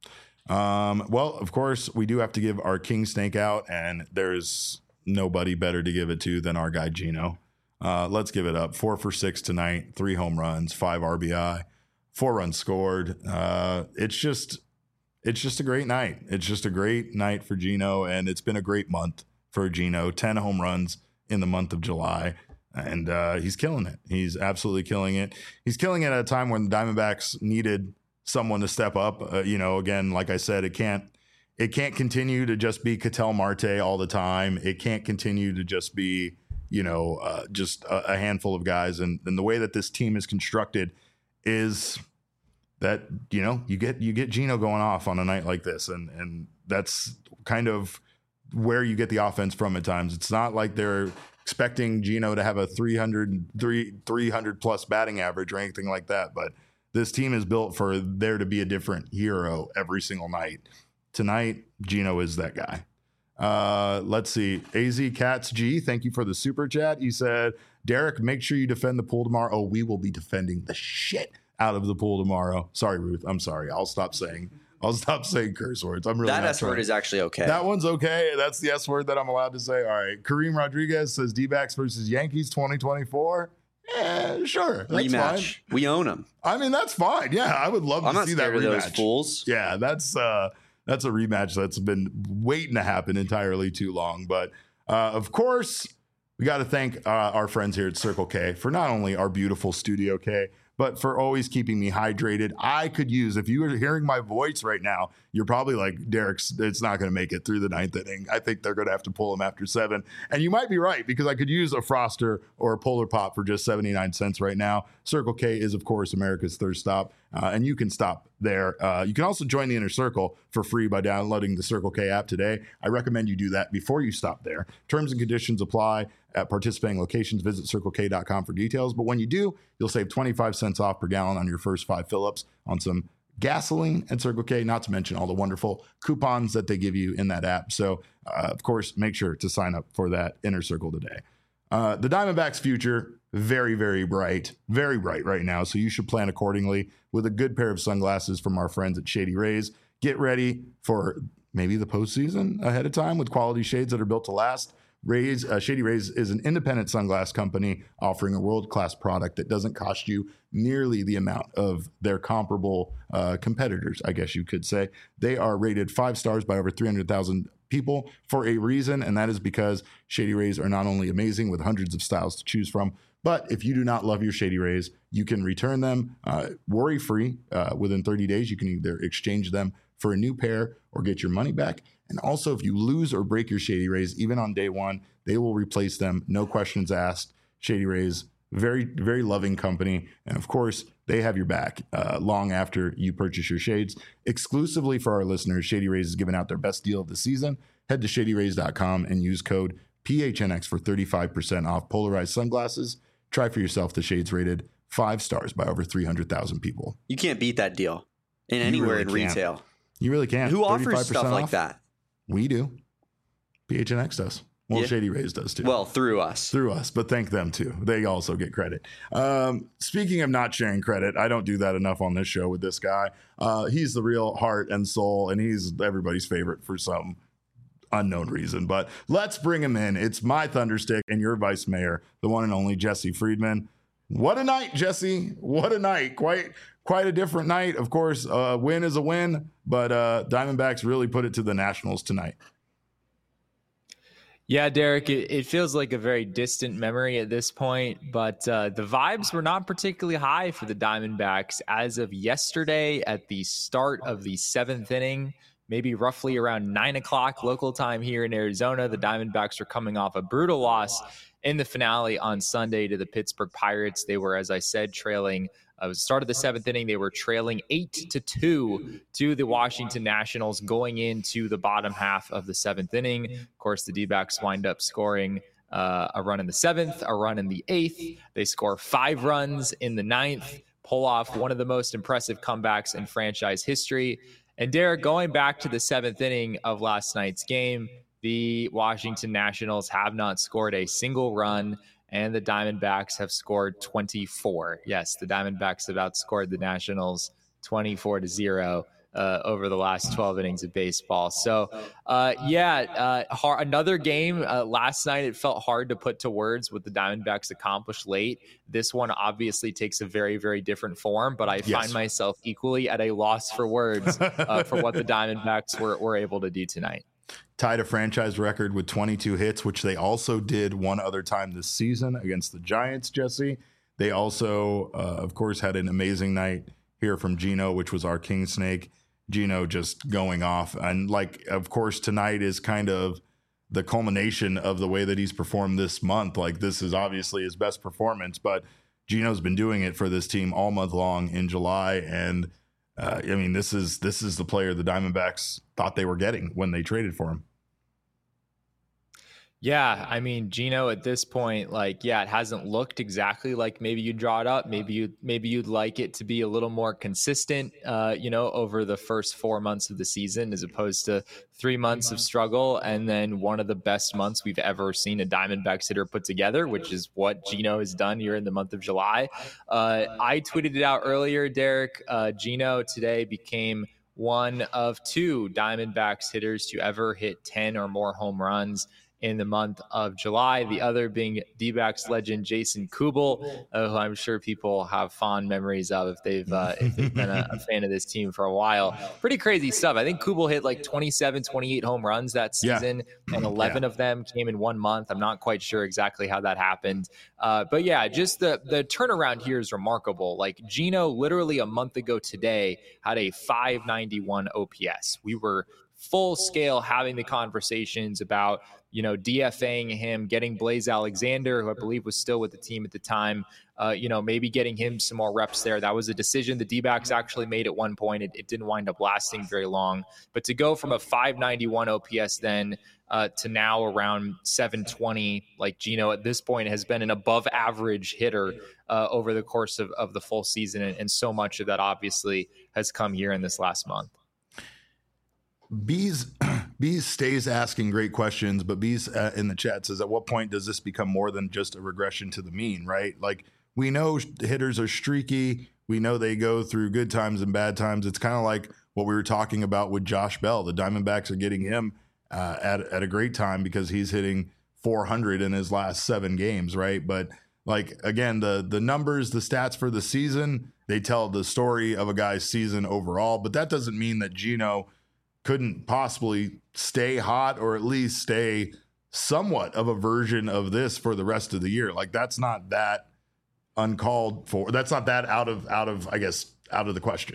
Um, well, of course, we do have to give our king snake out, and there's nobody better to give it to than our guy Gino. Uh, let's give it up. Four for six tonight, three home runs, five R B I, four runs scored. Uh, it's just, it's just a great night. It's just a great night for Gino, and it's been a great month for Gino. ten home runs in the month of July, and uh, he's killing it. He's absolutely killing it. He's killing it at a time when the Diamondbacks needed someone to step up. Uh, you know, again, like I said, it can't it can't continue to just be Ketel Marte all the time. It can't continue to just be, you know, uh, just a, a handful of guys. And, and the way that this team is constructed is that, you know, you get you get Gino going off on a night like this, and and that's kind of where you get the offense from at times. It's not like they're expecting Gino to have a three hundred, three hundred plus batting average or anything like that, but this team is built for there to be a different hero every single night. Tonight, Gino is that guy. Uh, let's see. A Z Cats G, thank you for the super chat. He said, Derek, make sure you defend the pool tomorrow. Oh, we will be defending the shit out of the pool tomorrow. Sorry, Ruth. I'm sorry. I'll stop saying I'll stop saying curse words. I'm really that not S word trying. is actually okay. That one's okay. That's the S word that I'm allowed to say. All right. Kareem Rodriguez says D-backs versus Yankees twenty twenty-four. Yeah, sure. That's rematch. fine. We own them. I mean, that's fine. Yeah, I would love I'm to not see that scared rematch. of those fools. Yeah, that's uh, that's a rematch that's been waiting to happen entirely too long. But uh, of course, we got to thank uh, our friends here at Circle K for not only our beautiful Studio K, but for always keeping me hydrated. I could use, if you were hearing my voice right now, you're probably like, Derek's, it's not going to make it through the ninth inning. I think they're going to have to pull him after seven. And you might be right, because I could use a Froster or a Polar Pop for just seventy-nine cents right now. Circle K is, of course, America's thirst stop, uh, and you can stop there. Uh, you can also join the Inner Circle for free by downloading the Circle K app today. I recommend you do that before you stop there. Terms and conditions apply at participating locations. Visit circle k dot com for details. But when you do, you'll save twenty-five cents off per gallon on your first five fill-ups on some gasoline at Circle K, not to mention all the wonderful coupons that they give you in that app. So, uh, of course, make sure to sign up for that Inner Circle today. Uh, the Diamondbacks' future, very, very bright, very bright right now. So you should plan accordingly with a good pair of sunglasses from our friends at Shady Rays. Get ready for maybe the postseason ahead of time with quality shades that are built to last. Rays, uh, Shady Rays is an independent sunglass company offering a world-class product that doesn't cost you nearly the amount of their comparable uh, competitors, I guess you could say. They are rated five stars by over three hundred thousand people for a reason, and that is because Shady Rays are not only amazing with hundreds of styles to choose from, but if you do not love your Shady Rays, you can return them uh, worry-free uh, within thirty days. You can either exchange them for a new pair or get your money back. And also, if you lose or break your Shady Rays, even on day one, they will replace them. No questions asked. Shady Rays, very, very loving company. And of course, they have your back uh, long after you purchase your shades. Exclusively for our listeners, Shady Rays is giving out their best deal of the season. Head to shady rays dot com and use code P H N X for thirty-five percent off polarized sunglasses. Try for yourself the shades rated five stars by over three hundred thousand people. You can't beat that deal in anywhere really in can't. retail. You really can't. Who offers stuff off? like that? We do. P H N X does. Well, Yeah. Shady Rays does too. Well, through us. Through us, but thank them too. They also get credit. Um, speaking of not sharing credit, I don't do that enough on this show with this guy. Uh, he's the real heart and soul, and he's everybody's favorite for some unknown reason. But let's bring him in. It's my Thunderstick and your vice mayor, the one and only Jesse Friedman. What a night, Jesse. What a night. Quite quite a different night. Of course, a win is a win, but uh, Diamondbacks really put it to the Nationals tonight. Yeah, Derek, it, it feels like a very distant memory at this point, but uh, the vibes were not particularly high for the Diamondbacks as of yesterday at the start of the seventh inning. Maybe roughly around nine o'clock local time here in Arizona, the Diamondbacks were coming off a brutal loss in the finale on Sunday to the Pittsburgh Pirates. They were, as I said, trailing. Uh, the start of the seventh inning, they were trailing eight to two to the Washington Nationals going into the bottom half of the seventh inning. Of course, the D-backs wind up scoring uh, a run in the seventh, a run in the eighth. They score five runs in the ninth, pull off one of the most impressive comebacks in franchise history. And Derek, going back to the seventh inning of last night's game, the Washington Nationals have not scored a single run, and the Diamondbacks have scored twenty-four. Yes, the Diamondbacks have outscored the Nationals twenty-four to zero uh, over the last twelve innings of baseball. So, uh, yeah, uh, hard, another game. Uh, last night, it felt hard to put to words what the Diamondbacks accomplished late. This one obviously takes a very, very different form, but I Yes. find myself equally at a loss for words uh, for what the Diamondbacks were, were able to do tonight. Tied a franchise record with twenty-two hits, which they also did one other time this season against the Giants, Jesse. They also, uh, of course, had an amazing night here from Gino, which was our King Snake. Gino just going off. And, like, of course, tonight is kind of the culmination of the way that he's performed this month. Like, this is obviously his best performance, but Gino's been doing it for this team all month long in July. And, uh, I mean, this is this is the player the Diamondbacks thought they were getting when they traded for him. Yeah, I mean, Gino at this point, like, yeah, it hasn't looked exactly like maybe you draw it up. Maybe you maybe you'd like it to be a little more consistent, uh, you know, over the first four months of the season as opposed to three months of struggle and then one of the best months we've ever seen a Diamondbacks hitter put together, which is what Gino has done here in the month of July. Uh, I tweeted it out earlier, Derek. Uh, Gino today became one of two Diamondbacks hitters to ever hit ten or more home runs in the month of July. The other being D-backs legend Jason Kubel, uh, who I'm sure people have fond memories of if they've uh, if they've been a, a fan of this team for a while. Pretty crazy stuff. I think Kubel hit like twenty-seven, twenty-eight home runs that season, yeah. and eleven yeah. of them came in one month. I'm not quite sure exactly how that happened. Uh, but yeah, just the, the turnaround here is remarkable. Like Gino literally a month ago today had a five ninety-one O P S. We were full scale having the conversations about, you know, DFAing him, getting Blaze Alexander, who I believe was still with the team at the time, uh, you know, maybe getting him some more reps there. That was a decision the D-backs actually made at one point. It, it didn't wind up lasting very long. But to go from a five ninety-one O P S then uh, to now around seven twenty, like Gino at this point has been an above average hitter uh, over the course of, of the full season. And, and so much of that obviously has come here in this last month. Bees Bees stays asking great questions, but Bees uh, in the chat says, at what point does this become more than just a regression to the mean, right? Like, we know hitters are streaky. We know they go through good times and bad times. It's kind of like what we were talking about with Josh Bell. The Diamondbacks are getting him uh, at, at a great time because he's hitting four hundred in his last seven games, right? But like, again, the the numbers, the stats for the season, they tell the story of a guy's season overall, but that doesn't mean that Gino couldn't possibly stay hot or at least stay somewhat of a version of this for the rest of the year. Like, that's not that uncalled for. That's not that out of, out of, I guess, out of the question.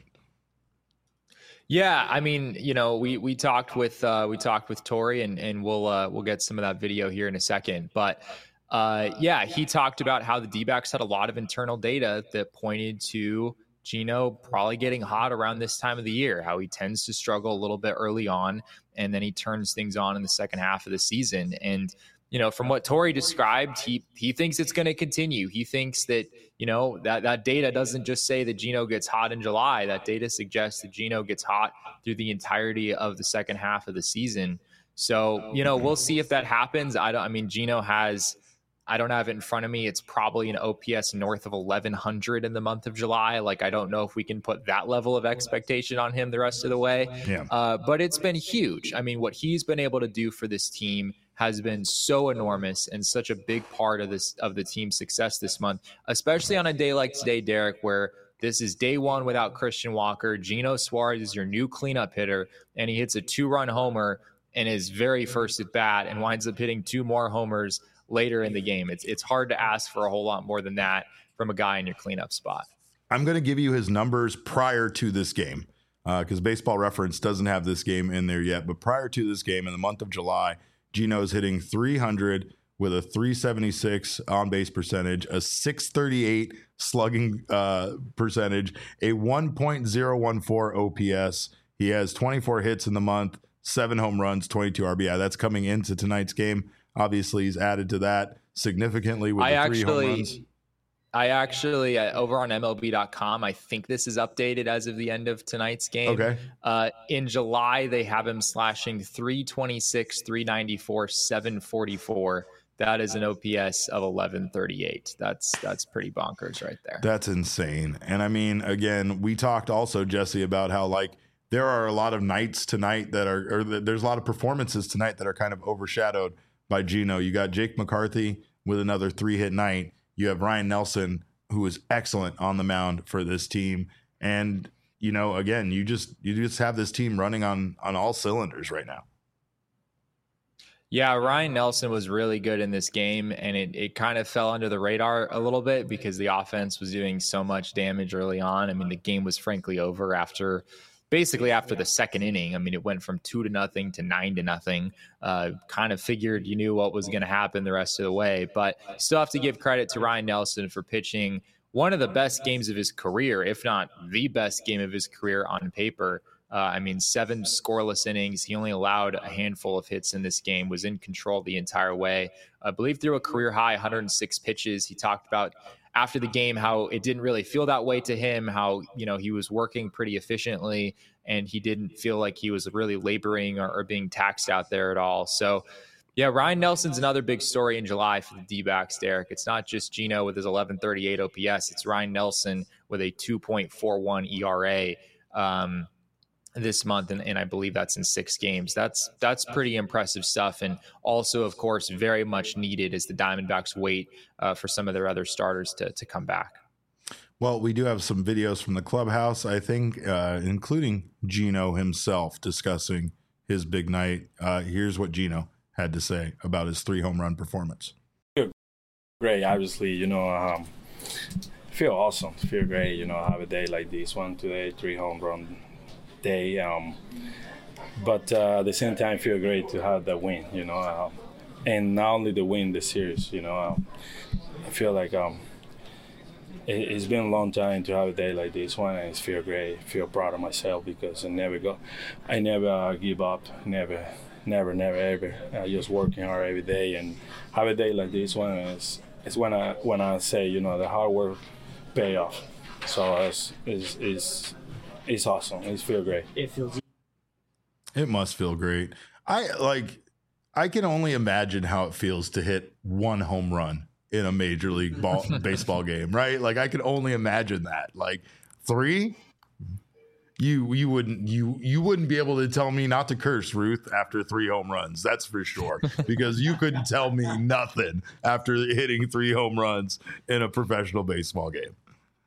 Yeah. I mean, you know, we, we talked with, uh, we talked with Tori and, and we'll, uh, we'll get some of that video here in a second, but, uh, yeah, he talked about how the D-backs had a lot of internal data that pointed to Gino probably getting hot around this time of the year, how he tends to struggle a little bit early on, and then he turns things on in the second half of the season. And, you know, from what Tori described, he he thinks it's going to continue. He thinks that, you know, that, that data doesn't just say that Gino gets hot in July. That data suggests that Gino gets hot through the entirety of the second half of the season. So, you know, we'll see if that happens. I don't, I mean, Gino has, I don't have it in front of me. It's probably an O P S north of eleven hundred in the month of July. Like, I don't know if we can put that level of expectation on him the rest of the way. Yeah. Uh, but it's been huge. I mean, what he's been able to do for this team has been so enormous and such a big part of this, of the team's success this month, especially on a day like today, Derek, where this is day one without Christian Walker. Gino Suarez is your new cleanup hitter, and he hits a two-run homer in his very first at bat and winds up hitting two more homers later in the game. It's it's hard to ask for a whole lot more than that from a guy in your cleanup spot. I'm going to give you his numbers prior to this game because uh, Baseball Reference doesn't have this game in there yet. But prior to this game, in the month of July, Gino's hitting three hundred with a three seventy-six on base percentage, a six thirty-eight slugging uh, percentage, a one point oh one four O P S. He has twenty-four hits in the month, seven home runs, twenty-two R B I. That's coming into tonight's game. Obviously, he's added to that significantly with I the three actually, home runs. I actually, uh, over on M L B dot com, I think this is updated as of the end of tonight's game. Okay. Uh, in July, they have him slashing three twenty-six, three ninety-four, seven forty-four. That is an O P S of eleven thirty-eight. That's that's pretty bonkers right there. That's insane. And I mean, again, we talked also, Jesse, about how, like, there are a lot of nights tonight that are, or there's a lot of performances tonight that are kind of overshadowed by Gino. You got Jake McCarthy with another three-hit night. You have Ryan Nelson, who is excellent on the mound for this team. And, you know, again, you just you just have this team running on on all cylinders right now. Yeah, Ryan Nelson was really good in this game, and it, it kind of fell under the radar a little bit because the offense was doing so much damage early on. I mean, the game was frankly over after basically after the second inning. I mean, it went from two to nothing to nine to nothing. Uh, kind of figured you knew what was going to happen the rest of the way, but still have to give credit to Ryan Nelson for pitching one of the best games of his career, if not the best game of his career on paper. Uh, I mean, seven scoreless innings. He only allowed a handful of hits in this game, was in control the entire way. I believe threw a career high one hundred six pitches. He talked about after the game how it didn't really feel that way to him, how, you know, he was working pretty efficiently and he didn't feel like he was really laboring or, or being taxed out there at all. So, yeah, Ryan Nelson's another big story in July for the D-backs, Derek. It's not just Gino with his eleven thirty-eight O P S. It's Ryan Nelson with a two point four one E R A. Um, this month, and, and I believe that's in six games. That's that's pretty impressive stuff, and also, of course, very much needed as the Diamondbacks wait uh, for some of their other starters to to come back. Well, we do have some videos from the clubhouse, I think, uh, including Gino himself discussing his big night. Uh, here's what Gino had to say about his three home run performance. Great, obviously, you know, um, feel awesome, feel great, you know, have a day like this one today, three home run day. Um, but uh, at the same time, feel great to have that win, you know, uh, and not only the win, the series, you know. Uh, I feel like um, it, it's been a long time to have a day like this one, and I feel great, feel proud of myself because I never go, I never uh, give up, never, never, never, ever. Uh, just working hard every day, and have a day like this one is is when I when I say, you know, the hard work pay off. So it's it's it's, it's awesome. It feels great. It feels. It must feel great. I like. I can only imagine how it feels to hit one home run in a major league ball, baseball game, right? Like I can only imagine that. Like three, you you wouldn't you you wouldn't be able to tell me not to curse, Ruth, after three home runs. That's for sure, because you couldn't tell me nothing after hitting three home runs in a professional baseball game.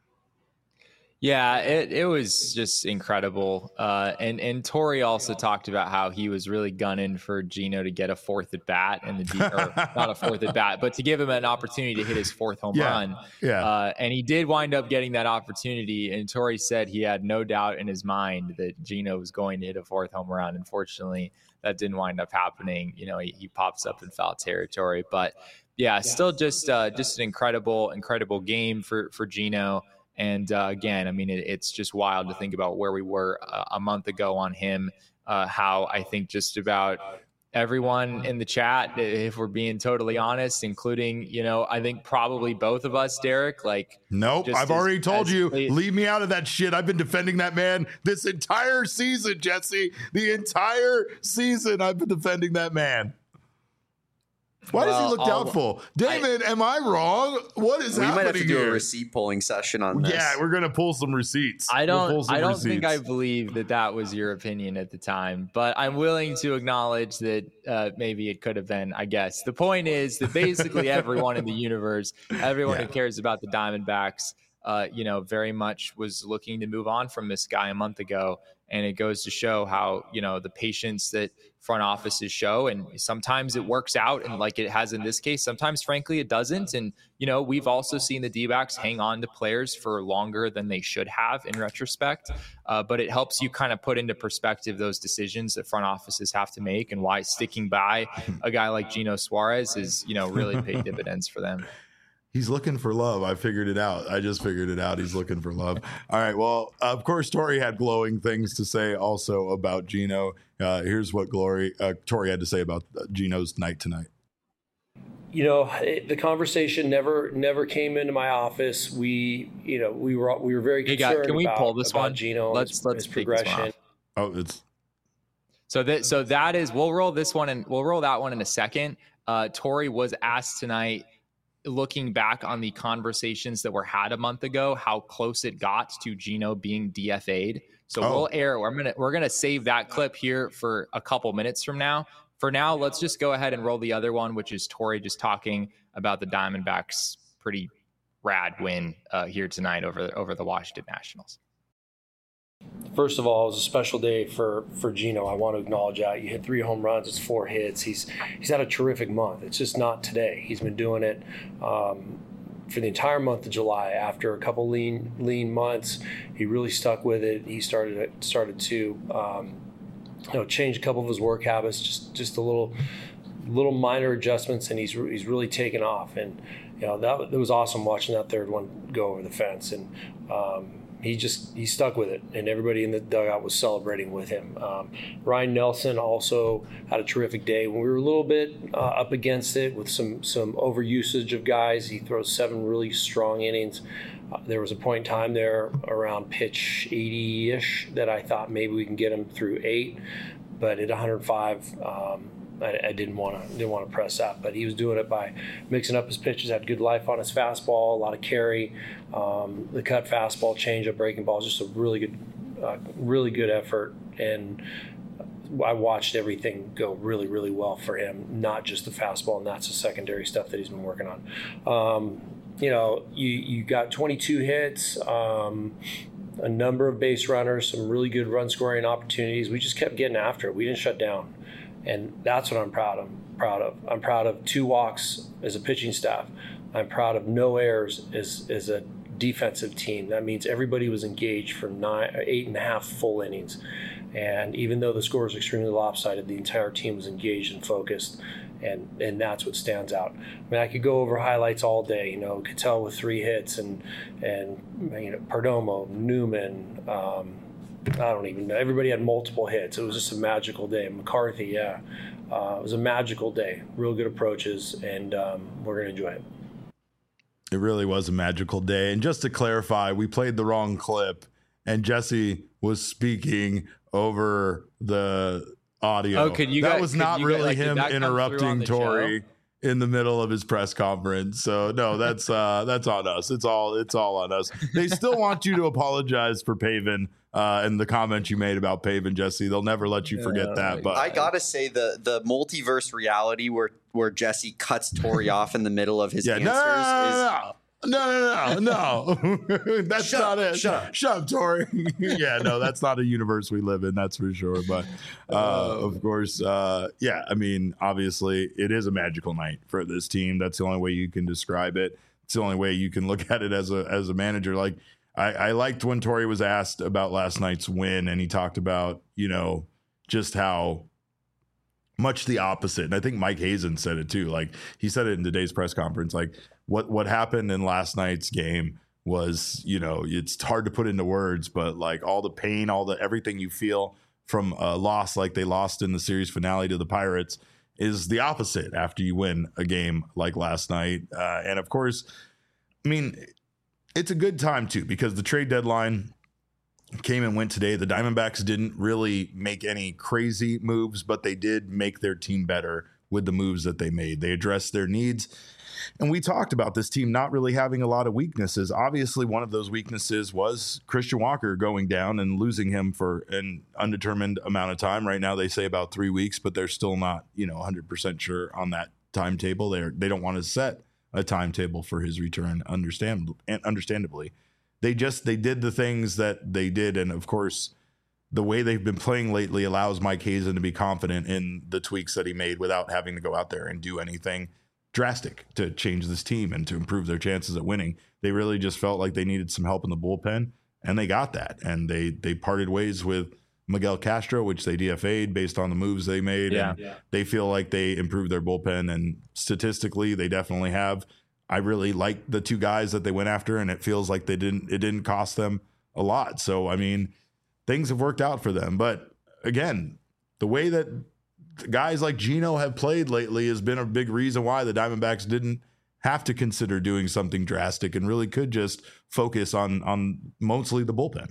Yeah, it, it was just incredible. Uh, and, and Torey also talked about how he was really gunning for Gino to get a fourth at bat and the D, or not a fourth at bat, but to give him an opportunity to hit his fourth home Yeah, run. yeah. Uh, and he did wind up getting that opportunity. And Torey said he had no doubt in his mind that Gino was going to hit a fourth home run. Unfortunately, that didn't wind up happening. You know, he, he pops up in foul territory. But yeah, still just uh, just an incredible, incredible game for, for Gino. And uh, again, I mean, it, it's just wild to think about where we were uh, a month ago on him, uh, how I think just about everyone in the chat, if we're being totally honest, including, you know, I think probably both of us, Derek, like. Nope. I've as, already told you, late- leave me out of that shit. I've been defending that man this entire season, Jesse. The entire season I've been defending that man. Why Well, does he look I'll- doubtful? David, am I wrong? What is We happening might have to do here? a receipt pulling session on this. Yeah, we're gonna pull some receipts. I We'll don't. pull some I don't receipts. think I believe that that was your opinion at the time, but I'm willing to acknowledge that uh, maybe it could have been. I guess the point is that basically everyone in the universe, everyone Yeah. who cares about the Diamondbacks, uh, you know, very much was looking to move on from this guy a month ago, and it goes to show how, you know, the patience that front offices show, and sometimes it works out, and like it has in this case, sometimes frankly it doesn't. And you know, we've also seen the D-backs hang on to players for longer than they should have in retrospect, uh, but it helps you kind of put into perspective those decisions that front offices have to make, and why sticking by a guy like Gino Suarez is, you know, really paid dividends for them. He's looking for love. I figured it out. I just figured it out. He's looking for love. All right. Well, of course, Torey had glowing things to say also about Gino. Uh, here's what Glory uh, Torey had to say about Gino's night tonight. You know, it, the conversation never never came into my office. We, you know, we were we were very Hey, concerned guys, can we about, pull this about one? Gino. Let's his, let's his take this one progression. off. Oh, it's So that so that is we'll roll this one and we'll roll that one in a second. Uh, Torey was asked tonight, looking back on the conversations that were had a month ago, how close it got to Gino being D F A'd. So Oh. we'll air. We're gonna we're gonna save that clip here for a couple minutes from now. For now, let's just go ahead and roll the other one, which is Torey just talking about the Diamondbacks' pretty rad win uh, here tonight over over the Washington Nationals. First of all, it was a special day for, for Gino. I want to acknowledge that. You hit three home runs, it's four hits. He's he's had a terrific month. It's just not today. He's been doing it um, for the entire month of July. After a couple lean lean months, he really stuck with it. He started started to um, you know change a couple of his work habits, just just a little little minor adjustments, and he's he's really taken off. And you know that it was awesome watching that third one go over the fence. And um, he just he stuck with it, and everybody in the dugout was celebrating with him. Um, Ryan Nelson also had a terrific day. When we were a little bit uh, up against it with some some overusage of guys, he throws seven really strong innings. Uh, there was a point in time there around pitch eighty-ish that I thought maybe we can get him through eight, but at one hundred five. Um, I, I didn't want to didn't want to press that, but he was doing it by mixing up his pitches. Had good life on his fastball, a lot of carry, um, the cut fastball, changeup, breaking balls. Just a really good, uh, really good effort and I watched everything go really, really well for him, not just the fastball, and that's the secondary stuff that he's been working on. Um, you know, you, you got twenty-two hits, um, a number of base runners, some really good run scoring opportunities. We just kept getting after it. We didn't shut down. And that's what I'm proud of. Proud of. I'm proud of two walks as a pitching staff. I'm proud of no errors as, as a defensive team. That means everybody was engaged for nine, eight and a half full innings. And even though the score was extremely lopsided, the entire team was engaged and focused, and, and that's what stands out. I mean, I could go over highlights all day. You know, Cattell with three hits, and and you know Perdomo, Newman. Um, I don't even know. Everybody had multiple hits. It was just a magical day. McCarthy, yeah, uh, it was a magical day. Real good approaches, and um, we're gonna enjoy it. It really was a magical day. And just to clarify, we played the wrong clip, and Jesse was speaking over the audio. Oh, could you that guys, was not really get, like, him interrupting Torey show? in the middle of his press conference. So no, that's uh, that's on us. It's all it's all on us. They still want you to apologize for Pavin uh, and the comment you made about Pavin, Jesse. They'll never let you forget Oh, that. But I gotta say the the multiverse reality where where Jesse cuts Torey off in the middle of his yeah, answers no, no, is no, no. No, no, no, no. That's Shut not up, it. shut up. Shut up, Tori. Yeah, no, that's not a universe we live in. That's for sure. But uh, of course, uh, yeah. I mean, obviously, it is a magical night for this team. That's the only way you can describe it. It's the only way you can look at it as a as a manager. Like I, I liked when Torey was asked about last night's win, and he talked about you know just how much the opposite. And I think Mike Hazen said it too. Like he said it in today's press conference. Like what what happened in last night's game was, you know, it's hard to put into words, but like all the pain, all the everything you feel from a loss like they lost in the series finale to the Pirates is the opposite after you win a game like last night. Uh, and of course, I mean, it's a good time too, because the trade deadline came and went today. The Diamondbacks didn't really make any crazy moves, but they did make their team better with the moves that they made. They addressed their needs. And we talked about this team not really having a lot of weaknesses. Obviously, one of those weaknesses was Christian Walker going down and losing him for an undetermined amount of time. Right now, they say about three weeks, but they're still not, you know, one hundred percent sure on that timetable. They're, they don't want to set a timetable for his return, understand, and understandably. They just they did the things that they did, and of course, the way they've been playing lately allows Mike Hazen to be confident in the tweaks that he made without having to go out there and do anything drastic to change this team and to improve their chances at winning. They really just felt like they needed some help in the bullpen, and they got that. And they they parted ways with Miguel Castro, which they D F A'd based on the moves they made. Yeah. And yeah. they feel like they improved their bullpen, and statistically, they definitely have. I really like the two guys that they went after, and it feels like they didn't. It didn't cost them a lot. So I mean, things have worked out for them. But again, the way that guys like Gino have played lately has been a big reason why the Diamondbacks didn't have to consider doing something drastic and really could just focus on on mostly the bullpen.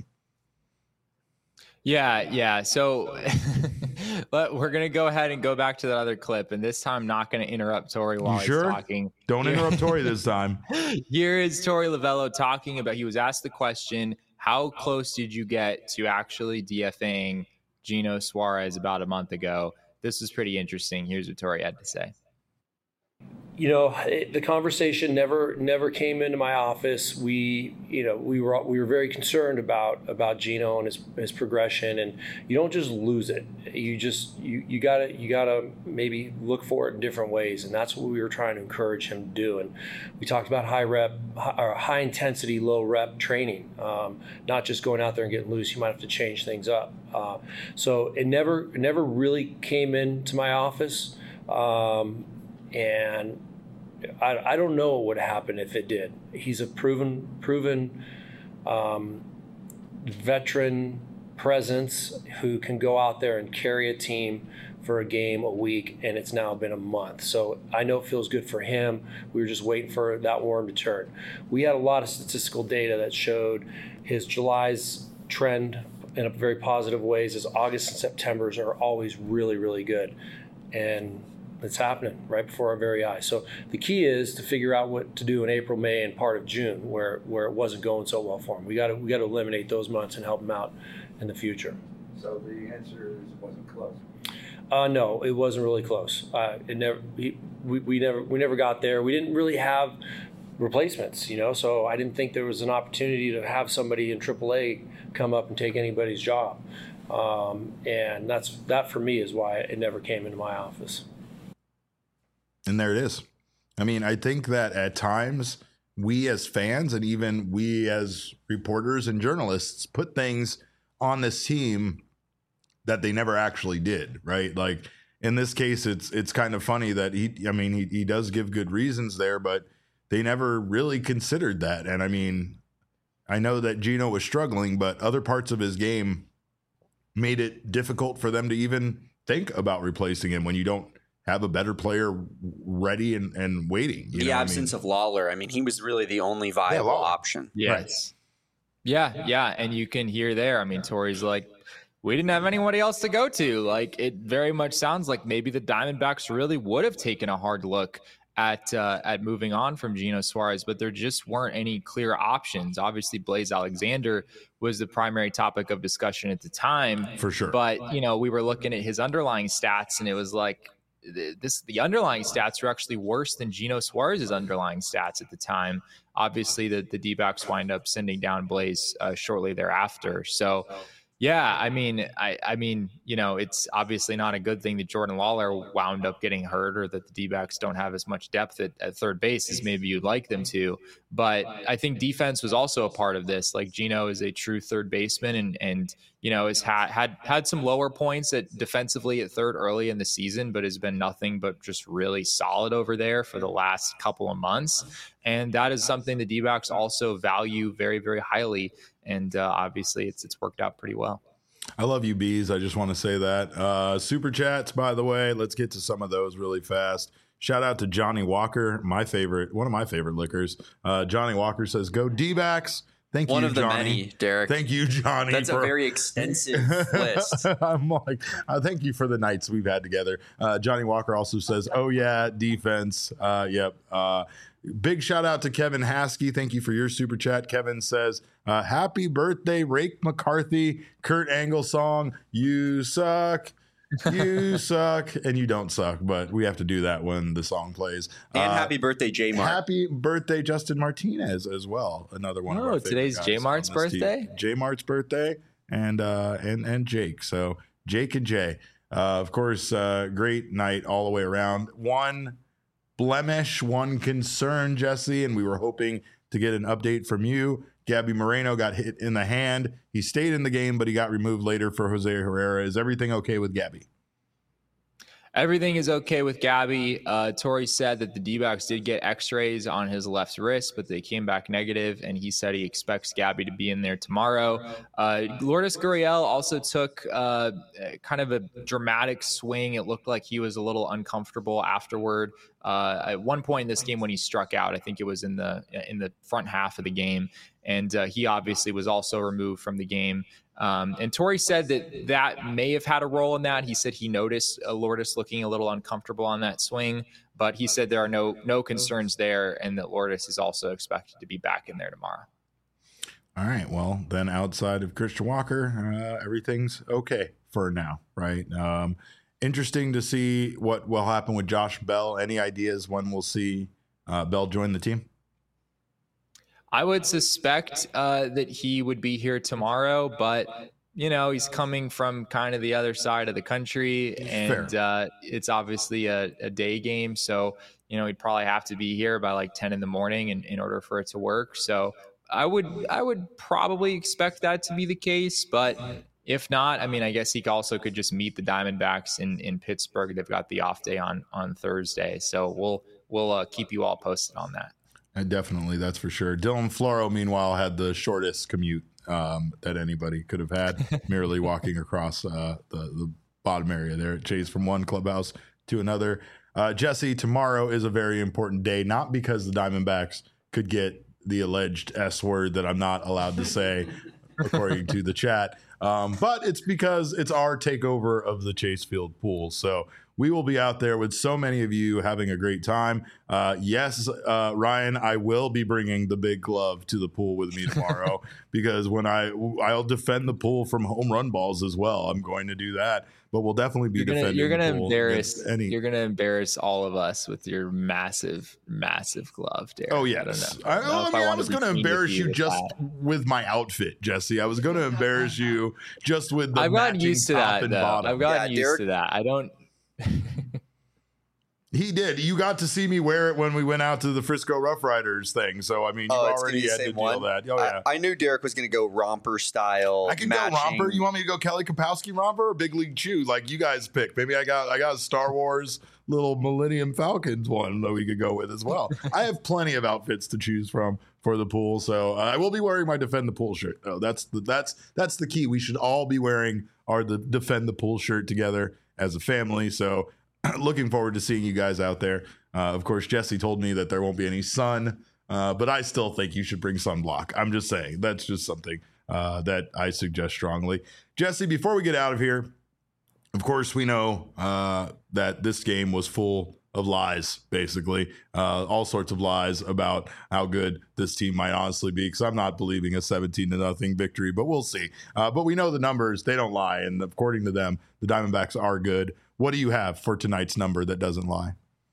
Yeah, yeah. So but we're going to go ahead and go back to that other clip, and this time not going to interrupt Torey while You he's sure? talking. Don't interrupt Torey this time. Here is Torey Lovullo talking about, he was asked the question, how close did you get to actually DFAing Gino Suarez about a month ago? This was pretty interesting. Here's what Torey had to say. You know, it, the conversation never never came into my office. We, you know, we were we were very concerned about about Gino and his his progression, and you don't just lose it. You just you you gotta you gotta maybe look for it in different ways, and that's what we were trying to encourage him to do. And we talked about high rep high, or high intensity, low rep training, um, not just going out there and getting loose. You might have to change things up. Uh, so it never it never really came into my office, um, and I, I don't know what would happen if it did. He's a proven proven um, veteran presence who can go out there and carry a team for a game a week, and it's now been a month. So I know it feels good for him. We were just waiting for that worm to turn. We had a lot of statistical data that showed his July's trend in a very positive ways. His August and September's are always really, really good. And it's happening right before our very eyes. So the key is to figure out what to do in April, May, and part of June, where where it wasn't going so well for him. We got to we got to eliminate those months and help him out in the future. So the answer is it wasn't close. Uh, no, it wasn't really close. Uh, it never. We, we, we never. We never got there. We didn't really have replacements, you know. So I didn't think there was an opportunity to have somebody in triple A come up and take anybody's job. Um, and that's that for me is why it never came into my office. And there it is. I mean, I think that at times we as fans and even we as reporters and journalists put things on this team that they never actually did, right? Like in this case, it's it's kind of funny that he, I mean, he, he does give good reasons there, but they never really considered that. And I mean, I know that Gino was struggling, but other parts of his game made it difficult for them to even think about replacing him when you don't have a better player ready and, and waiting. You the know absence I mean? of Lawler. I mean, he was really the only viable yeah, option. Yes. Right. Yeah, yeah. And you can hear there, I mean, Torey's like, we didn't have anybody else to go to. Like, it very much sounds like maybe the Diamondbacks really would have taken a hard look at uh, at moving on from Gino Suarez, but there just weren't any clear options. Obviously, Blaze Alexander was the primary topic of discussion at the time. For sure. But, you know, we were looking at his underlying stats, and it was like, this the underlying stats are actually worse than Gino Suarez's underlying stats at the time. Obviously, the, the D-backs wind up sending down Blaze uh, shortly thereafter. So, yeah, I mean, I, I mean, you know, it's obviously not a good thing that Jordan Lawler wound up getting hurt or that the D-backs don't have as much depth at, at third base as maybe you'd like them to. But I think defense was also a part of this. Like, Gino is a true third baseman and, and you know, has had, had, had some lower points at defensively at third early in the season, but has been nothing but just really solid over there for the last couple of months. And that is something the D-backs also value very, very highly. And uh, obviously, it's it's worked out pretty well. I love you, Bees. I just want to say that. Uh, super chats, by the way. Let's get to some of those really fast. Shout out to Johnny Walker, my favorite, one of my favorite liquors. Uh, Johnny Walker says, "Go D-backs." Thank One you, of the Johnny. many, Derek. Thank you, Johnny. That's for... a very extensive list. I'm like, uh, thank you for the nights we've had together. Uh, Johnny Walker also says, "Oh yeah, defense." Uh, yep. Uh, big shout out to Kevin Haskey. Thank you for your super chat. Kevin says, uh, "Happy birthday, Rake McCarthy." Kurt Angle song. You suck. You suck, and you don't suck, but we have to do that when the song plays. And uh, happy birthday, J Mart. Happy birthday, Justin Martinez, as well. Another one. Oh, of our favorite today's guys J Mart's on this birthday? team. J Mart's birthday, and uh, and and Jake. So Jake and Jay. Uh, of course, uh, great night all the way around. One blemish, one concern, Jesse, and we were hoping to get an update from you. Gabby Moreno got hit in the hand. He stayed in the game, but he got removed later for Jose Herrera. Is everything okay with Gabby? Everything is okay with Gabby. Uh, Torey said that the D-backs did get x-rays on his left wrist, but they came back negative, and he said he expects Gabby to be in there tomorrow. Uh, Lourdes Gurriel also took uh, kind of a dramatic swing. It looked like he was a little uncomfortable afterward. Uh, at one point in this game when he struck out, I think it was in the in the front half of the game, and uh, he obviously was also removed from the game. Um, and Torey said that that may have had a role in that. He said he noticed uh, Lourdes looking a little uncomfortable on that swing, but he said there are no no concerns there, and that Lourdes is also expected to be back in there tomorrow. All right. Well, then outside of Christian Walker, uh, everything's okay for now, right? Um, interesting to see what will happen with Josh Bell. Any ideas when we'll see uh, Bell join the team? I would suspect uh, that he would be here tomorrow, but, you know, he's coming from kind of the other side of the country, and uh, it's obviously a, a day game. So, you know, he'd probably have to be here by like ten in the morning in, in order for it to work. So I would I would probably expect that to be the case. But if not, I mean, I guess he also could just meet the Diamondbacks in, in Pittsburgh. They've got the off day on, on Thursday. So we'll we'll uh, keep you all posted on that. Uh, definitely, that's for sure. Dylan Floro, meanwhile, had the shortest commute um, that anybody could have had, merely walking across uh, the, the bottom area there at Chase from one clubhouse to another. Uh, Jesse, tomorrow is a very important day, not because the Diamondbacks could get the alleged S word that I'm not allowed to say, according to the chat, um, but it's because it's our takeover of the Chase Field pool. So we will be out there with so many of you having a great time. Uh, yes, uh, Ryan, I will be bringing the big glove to the pool with me tomorrow because when I I'll defend the pool from home run balls as well. I'm going to do that, but we'll definitely be you're gonna, defending. You're going to the pool embarrass. any. You're going to embarrass all of us with your massive, massive glove, Derek. Oh yes, I, I, don't know. I, I, I, mean, I I was going to embarrass you, you just that. with my outfit, Jesse. I was going to embarrass you just with the I've gotten used to that. Though. Bottom. I've gotten yeah, used Derek, to that. I don't. He did. You got to see me wear it when we went out to the Frisco Rough Riders thing. So, I mean, you oh, already had to deal one? that. Oh, yeah. I, I knew Derek was going to go romper style. I can matching. go romper. You want me to go Kelly Kapowski romper or Big League Chew? Like you guys pick. Maybe I got I got a Star Wars little Millennium Falcons one that we could go with as well. I have plenty of outfits to choose from for the pool. So uh, I will be wearing my Defend the Pool shirt. Oh, that's the, that's that's the key. We should all be wearing our the Defend the Pool shirt together as a family. So looking forward to seeing you guys out there. Uh, of course, Jesse told me that there won't be any sun, uh, but I still think you should bring sunblock. I'm just saying that's just something uh, that I suggest strongly. Jesse, before we get out of here, of course, we know uh, that this game was full of lies, basically, uh, all sorts of lies about how good this team might honestly be, because I'm not believing a seventeen to nothing victory, but we'll see. Uh, but we know the numbers, they don't lie, and according to them, the Diamondbacks are good. What do you have for tonight's number that doesn't lie?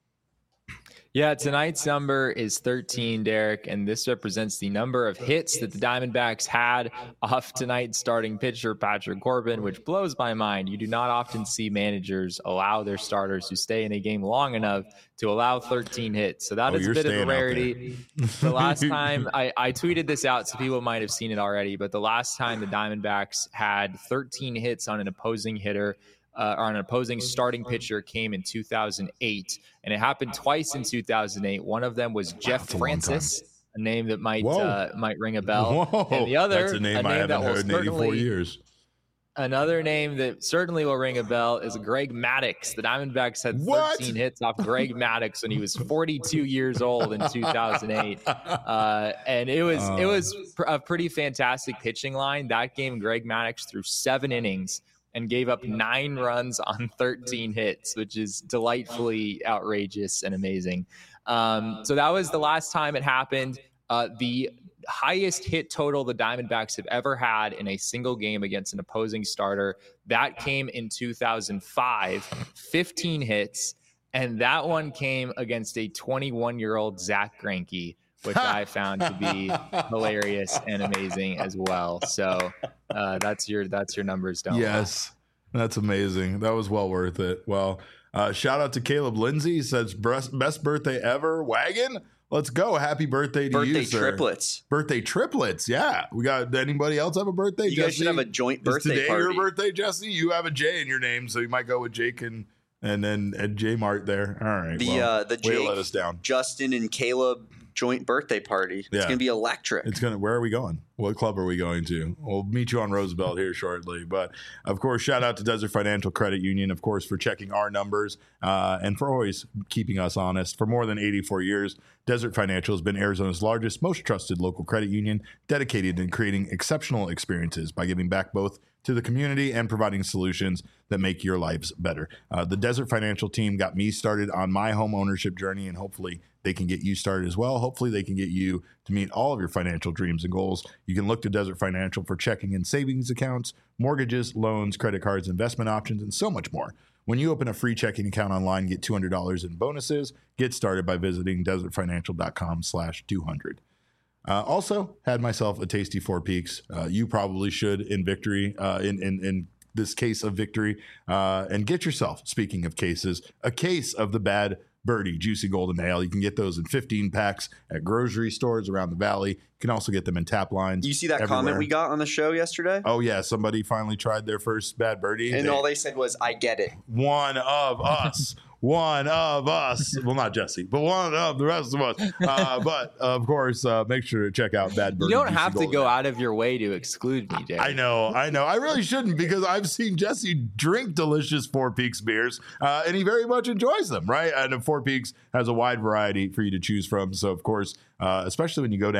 Yeah, tonight's number is thirteen, Derek, and this represents the number of hits that the Diamondbacks had off tonight's starting pitcher, Patrick Corbin, which blows my mind. You do not often see managers allow their starters who stay in a game long enough to allow thirteen hits. So that oh, is a bit of a rarity. The last time, I, I tweeted this out, so people might have seen it already, but the last time the Diamondbacks had thirteen hits on an opposing hitter, Uh, or an opposing starting pitcher came in two thousand eight, and it happened twice in two thousand eight. One of them was Jeff wow, Francis, a, a name that might uh, might ring a bell. Whoa. And the other, that's a name, a name I haven't that will heard in eighty-four years. Another name that certainly will ring a bell is Greg Maddux. The Diamondbacks had thirteen what? hits off Greg Maddux when he was forty-two years old in two thousand eight, uh, and it was uh. it was a pretty fantastic pitching line. That game, Greg Maddux threw seven innings and gave up nine runs on thirteen hits, which is delightfully outrageous and amazing. Um, so that was the last time it happened. Uh, the highest hit total the Diamondbacks have ever had in a single game against an opposing starter, that came in two thousand five, fifteen hits, and that one came against a twenty-one-year-old Zach Greinke, which I found to be hilarious and amazing as well. So uh, that's your that's your numbers, don't Yes, lie. That's amazing. That was well worth it. Well, uh, shout out to Caleb Lindsay. He says, best birthday ever. Wagon, let's go. Happy birthday to birthday you, sir. Birthday triplets. Birthday triplets, yeah. We got anybody else have a birthday? You Jesse? guys should have a joint birthday Is today party. your birthday, Jesse? You have a J in your name, so you might go with Jake and and then and J Mart there. All right. The well, uh, the way to Jake, let us down. Justin and Caleb joint birthday party. It's Yeah. gonna be electric. It's gonna. Where are we going? What club are we going to? We'll meet you on Roosevelt here shortly. But of course, shout out to Desert Financial Credit Union, of course, for checking our numbers uh, and for always keeping us honest. For more than eighty-four years, Desert Financial has been Arizona's largest, most trusted local credit union, dedicated in creating exceptional experiences by giving back both to the community and providing solutions that make your lives better. Uh, the Desert Financial team got me started on my home ownership journey, and hopefully they can get you started as well. Hopefully they can get you to meet all of your financial dreams and goals. You can look to Desert Financial for checking and savings accounts, mortgages, loans, credit cards, investment options, and so much more. When you open a free checking account online, get two hundred dollars in bonuses. Get started by visiting desertfinancial.com slash 200. Uh, also, had myself a tasty Four Peaks. Uh, you probably should in victory, uh, in, in, in this case of victory. Uh, and get yourself, speaking of cases, a case of the Bad Birdie Juicy Golden Ale. You can get those in fifteen packs at grocery stores around the valley. You can also get them in tap lines. You see that everywhere. comment we got on the show yesterday? Oh, yeah. Somebody finally tried their first Bad Birdie. And they, all they said was, I get it. One of us. One of us. Well, not Jesse, but one of the rest of us. Uh, but, of course, uh, make sure to check out Bad Birdie. You don't Juicy have to Golden go Ale. out of your way to exclude me, Derek. I know, I know. I really shouldn't because I've seen Jesse drink delicious Four Peaks beers, uh, and he very much enjoys them, right? And Four Peaks has a wide variety for you to choose from. So, of course, uh, especially when you go down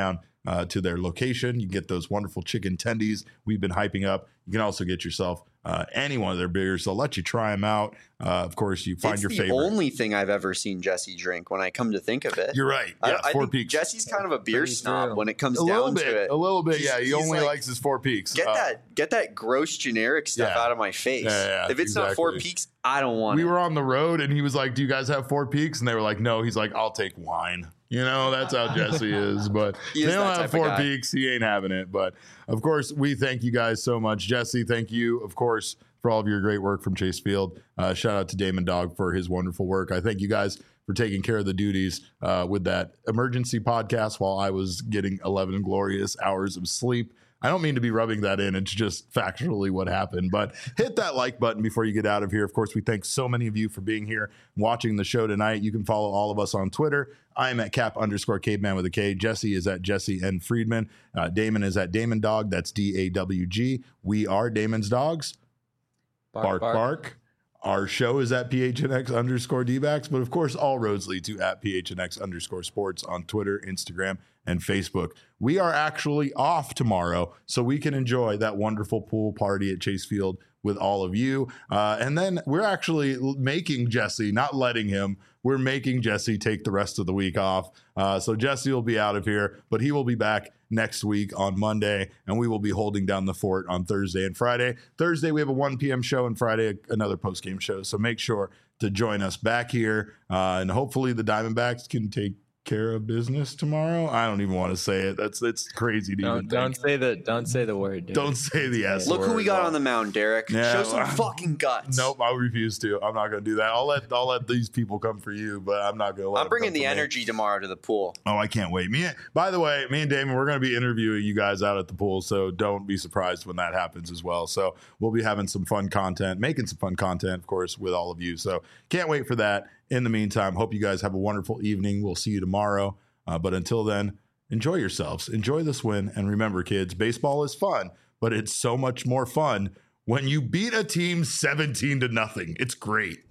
uh, to their location. You get those wonderful chicken tendies we've been hyping up. You can also get yourself uh, any one of their beers. They'll let you try them out. Uh, of course, you find it's your the favorite. only thing I've ever seen Jesse drink when I come to think of it. You're right. I, Yeah, I Four think Peaks. Jesse's kind of a beer Pretty snob true. when it comes a little down bit, to it. a little bit. He's- Yeah, he he's only like, likes his Four Peaks. Get Uh, that, get that gross generic stuff Yeah. out of my face. Yeah, yeah, if it's not Four exactly. Peaks, I don't want We it. were on the road and he was like, do you guys have Four Peaks? And they were like, no. He's like, I'll take wine. You know, that's how Jesse is. But He is they don't that have type of Four guy. Peaks. He ain't having it. But of course, we thank you guys so much. Jesse, thank you, of course, for all of your great work from Chase Field. Uh, shout out to Damon Dog for his wonderful work. I thank you guys for taking care of the duties uh, with that emergency podcast while I was getting eleven glorious hours of sleep. I don't mean to be rubbing that in. It's just factually what happened. But hit that like button before you get out of here. Of course, we thank so many of you for being here and watching the show tonight. You can follow all of us on Twitter. I'm at cap underscore caveman with a K. Jesse is at Jesse N. Friedman. Uh, Damon is at Damon Dog. That's D A W G. We are Damon's Dogs. Bark, bark. Our show is at P H N X underscore D-backs, but of course, all roads lead to at P H N X underscore sports on Twitter, Instagram, and Facebook. We are actually off tomorrow, so we can enjoy that wonderful pool party at Chase Field with all of you. Uh, and then we're actually making Jesse, not letting him, we're making Jesse take the rest of the week off. Uh, so Jesse will be out of here, but he will be back next week on Monday, and we will be holding down the fort on Thursday and Friday. Thursday, we have a one p.m. show, and Friday, another post-game show. So make sure to join us back here, uh, and hopefully the Diamondbacks can take care of business tomorrow. I don't even want to say it. That's it's crazy to Don't even don't think. say the don't say the word. Dude. Don't say the S Look word. who we got on the mound, Derek. Yeah, Show some well, fucking guts. Nope, I refuse to. I'm not going to do that. I'll let I'll let these people come for you, but I'm not going to let. I'm them bringing come the for me. energy tomorrow to the pool. Oh, I can't wait. Me, by the way, me and Damon, we're going to be interviewing you guys out at the pool, so don't be surprised when that happens as well. So we'll be having some fun content, making some fun content, of course, with all of you. So can't wait for that. In the meantime, hope you guys have a wonderful evening. We'll see you tomorrow. Uh, but until then, enjoy yourselves. Enjoy this win. And remember, kids, baseball is fun, but it's so much more fun when you beat a team seventeen to nothing. It's great.